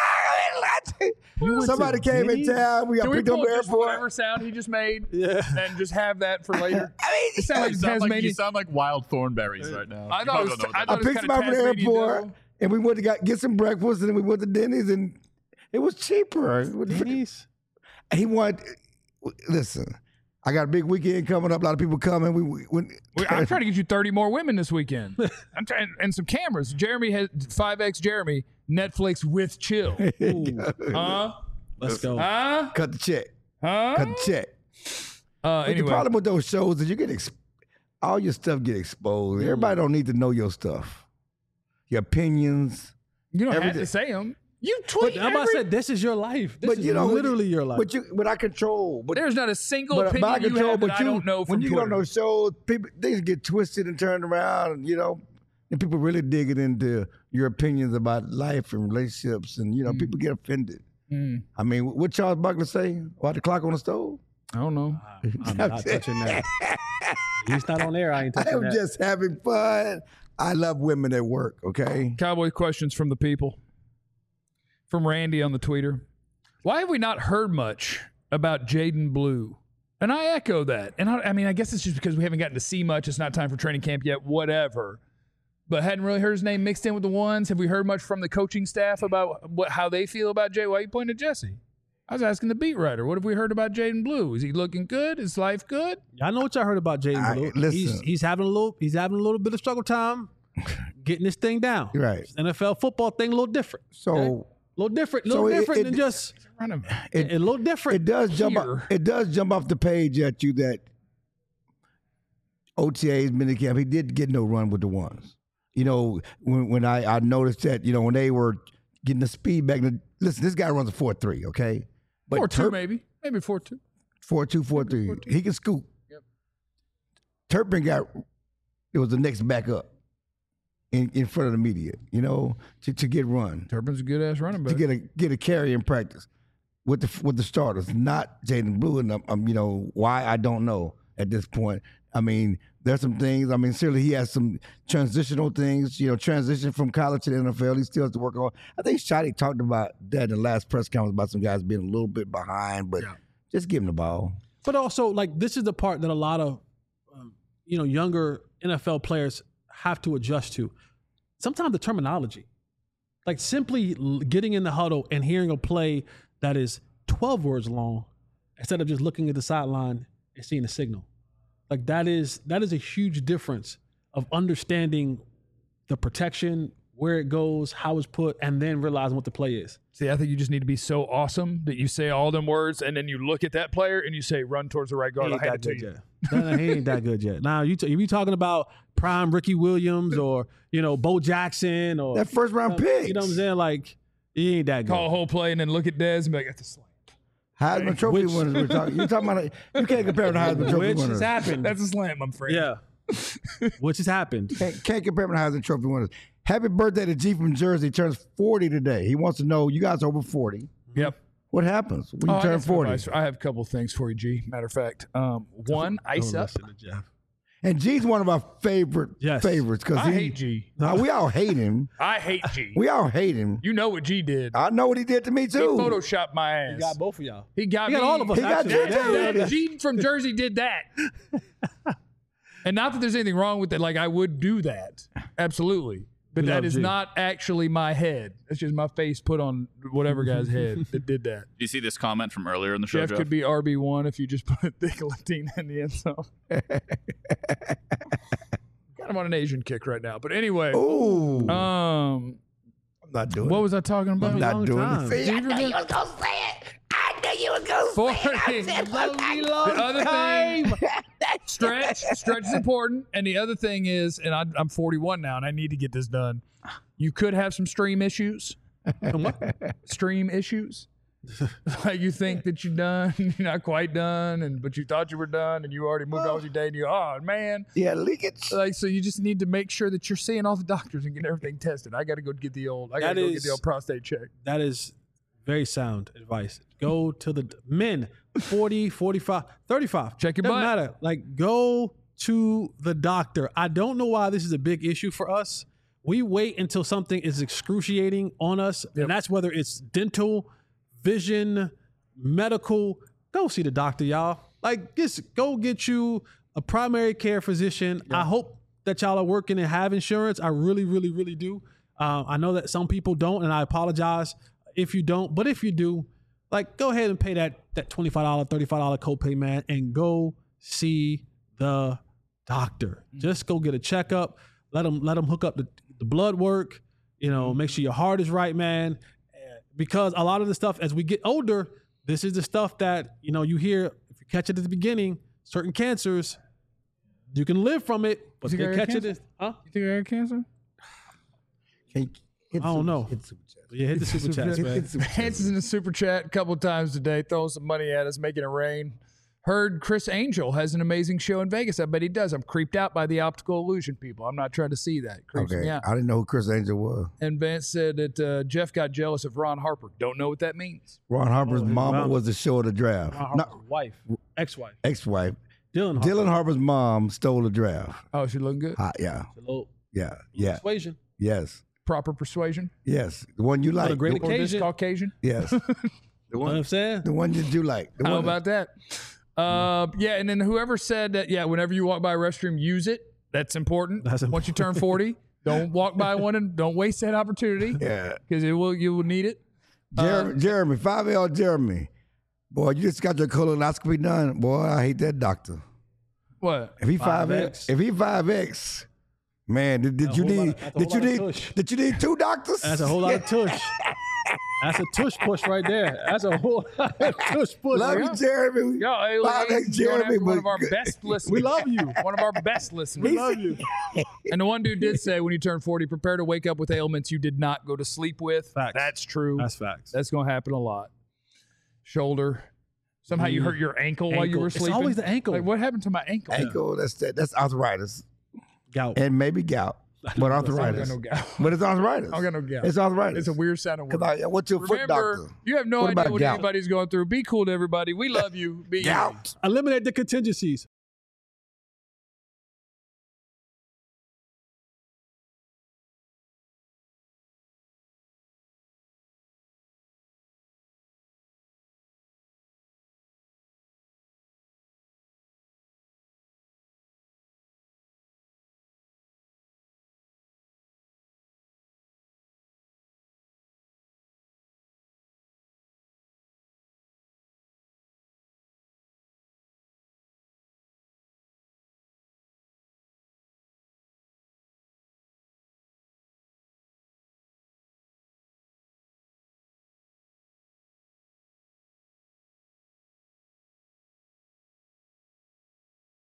God, You went somebody to came Denny's? in town. We got Can we picked up pull the just airport. whatever sound he just made Yeah. and just have that for later? I mean, It sounds like You sound like, Tasmania. you sound like wild thornberries right now. I You thought probably it was- don't know what I that thought I it was picked him kinda up from the Tasmanian airport, devil. and we went to got, get some breakfast, and then we went to Denny's, and it was cheaper. It was- Denny's? He wanted. Listen, I got a big weekend coming up. A lot of people coming. We, we, we We- I'm trying to get you thirty more women this weekend. I'm trying and some cameras. Jeremy has five X Jeremy Netflix with chill. Huh? Let's go. Huh? cut the check. Huh? Cut the check. Uh, But anyway, the problem with those shows is you get ex- all your stuff get exposed. Everybody don't need to know your stuff, your opinions. you don't have everything. to say them. You tweet. I'm about to every- say this is your life. This but is you know, literally your life. But you, but I control. But There's not a single but, opinion but I you control. have But that you, I don't know from when you Twitter. get on those shows, people things get twisted and turned around. You know, and people really dig it into your opinions about life and relationships, and you know, people get offended. Mm, I mean, what Charles Buckley say about the clock on the stove? I don't know. I'm not touching that. He's not on air. I ain't I touching am that. just having fun. I love women at work. Okay. Cowboy questions from the people. From Randy on the Twitter. Why have we not heard much about Jaden Blue? And I echo that. And I, I mean, I guess it's just because we haven't gotten to see much. It's not time for training camp yet, whatever. But hadn't really heard his name mixed in with the ones. Have we heard much from the coaching staff about what how they feel about Jay? Why are you pointing at Jesse? I was asking the beat writer. What have we heard about Jaden Blue? Is he looking good? Is life good? I know what y'all heard about Jaden I- Blue. listen. He's he's having a little he's having a little bit of struggle time getting this thing down. Right. N F L football thing a little different. So A little different, a So little it- different it- than just Run him. it, a little different. it does jump here. up, it does jump off the page at you that O T As, minicamp, he did get no run with the ones. You know, when when I, I noticed that, you know, when they were getting the speed back, listen, this guy runs a four three, okay? But Four two, Turp- maybe. Maybe four two. four two, four three. He can scoop. Yep. Turpin got, it was the next back up. in, in front of the media, you know, to, to get run, Turpin's a good ass running back. to get a get a carry in practice with the with the starters, not Jaden Blue. And um, um, you know why, I don't know at this point. I mean, there's some things. I mean, certainly he has some transitional things. You know, transition from college to the N F L. He still has to work on. I think Shotty talked about that in the last press conference about some guys being a little bit behind, but Yeah. just give him the ball. But also, like, this is the part that a lot of, um, you know, younger N F L players have to adjust to. Sometimes the terminology, like simply l- getting in the huddle and hearing a play that is twelve words long instead of just looking at the sideline and seeing a signal. Like that is that is a huge difference of understanding the protection, where it goes, how it's put, and then realizing what the play is. See, I think you just need to be so awesome that you say all them words, and then you look at that player and you say, "Run towards the right He guard." I'll ain't hand that it to good you. yet. No, no, he ain't that good yet. Now, you t- if you talking about prime Ricky Williams or, you know, Bo Jackson or That first round pick. you know what I'm saying? Like, he ain't that good. Call a whole play and then look at Dez and be like, "That's a slam." Heisman Trophy Which- winners. We're talking. You talking about? You can't compare them to Heisman Trophy Which winners. has happened. That's a slam, I'm afraid. Yeah. Which has happened. Can't, can't compare them to Heisman Trophy winners. Happy birthday to G from Jersey. Turns forty today. He wants to know, you guys are over forty. Yep. What happens when you Oh, I turn got some forty? advice. I have a couple of things for you, G. Matter of fact, um, one, ice Don't up. listen to Jeff. And G's one of our favorite Yes. favorites because I he. hate G. Uh, we all hate him. I hate G. We all hate him. You know what G did? I know what he did to me He too. photoshopped my ass. He got both of y'all. He got He got me. all of us, He got actually. you That- too. that- Yeah. G from Jersey did that. And not that there's anything wrong with it. Like, I would do that. Absolutely. But We that love is G. not actually my head. That's just my face put on whatever guy's head that did that. Do you see this comment from earlier in the show, Jeff Jeff? could be R B one if you just put Dick Latina in the end zone. Kind of on an Asian kick right now. But anyway, Ooh, um, I'm not doing what it. was I talking about? I'm not long doing time. it. See, I knew you was gonna say it. I knew you was gonna say it. The other thing, stretch, stretch is important. And the other thing is, and I, I'm forty-one now, and I need to get this done. You could have some stream issues. Stream issues. Like you think that you're done, you're not quite done, and but you thought you were done, and you already moved on with your day, and you, oh man, Yeah, leakage. like so you just need to make sure that you're seeing all the doctors and getting everything tested. I got to go get the old, I got to That go is- get the old prostate check. That is very sound advice. Go to the men, forty, forty-five, thirty-five. Check your Doesn't butt. matter. Like, go to the doctor. I don't know why this is a big issue for us. We wait until something is excruciating on us, Yep. and that's whether it's dental, vision, medical. Go see the doctor, y'all. Like, just go get you a primary care physician. I hope that y'all are working and have insurance. I really, really, really do. Uh, I know that some people don't, and I apologize if you don't. But if you do, like, go ahead and pay that that twenty-five dollars, thirty-five dollars copay, man, and go see the doctor. Just go get a checkup. Let them let them hook up the, the blood work. You know, make sure your heart is right, man. Because a lot of the stuff, as we get older, this is the stuff that, you know, you hear, if you catch it at the beginning, certain cancers, you can live from it, but You think they I got catch it. cancer? As, huh? You think I had cancer? Hey, hit I don't super- know. hit super chat. Yeah, hit the super chats, Hit- man. hit super chat. Hanson's in the super chat a couple times today, throwing some money at us, making it rain. Heard Chris Angel has an amazing show in Vegas. I bet he does. I'm creeped out by the optical illusion people. I'm not trying to see that. It creeps me Okay, out. I didn't know who Chris Angel was. And Vance said that uh, Jeff got jealous of Ron Harper. Don't know what that means. Ron Harper's Oh, his mama mom. was the show of the draft. Ron No, Harper's wife, ex-wife, ex-wife. Dylan Harper. Dylan Harper's mom stole the draft. Oh, she looking good. Ah, yeah, A little yeah, yeah, persuasion. yes, Proper persuasion. yes. The one you like. a great The- Or this Occasion. Caucasian. yes. The You know what one, I'm saying? the one that you like. The How one about that? Uh, yeah, and then whoever said that, yeah, whenever you walk by a restroom, use it. That's important. That's Once you turn forty, don't walk by one and don't waste that opportunity Yeah, because it will you will need it. Jeremy, Jeremy, five L Jeremy. Boy, you just got your colonoscopy done. Boy, I hate that doctor. What? If he five five X, X. if he five X, man, did, did That's a you whole lot need of- that's a did you whole lot need of tush. did you need two doctors? That's a whole lot of tush. That's a tush push right there. That's a whole lot of tush push. Love you, Jeremy. Yo, hey, Five hey, X he's going Jeremy, after one of but our good. best listeners. We love you. One of our best listeners. We love you. And the one dude did say when you turn forty, prepare to wake up with ailments you did not go to sleep with. Facts. That's true. That's facts. That's going to happen a lot. Shoulder. Somehow you hurt your ankle, while you Ankle. were It's sleeping. always the ankle. Like, what happened to my ankle? Ankle, that's that, that's arthritis Gout. and maybe gout. But I don't arthritis. got no gout. But it's arthritis. I don't got no gout. It's arthritis. It's a weird sounding word. Because I, I went to a foot Remember, doctor. you have no What idea about what gout? anybody's going through. Be cool to everybody. We love you. Be easy. Gout. Eliminate the contingencies.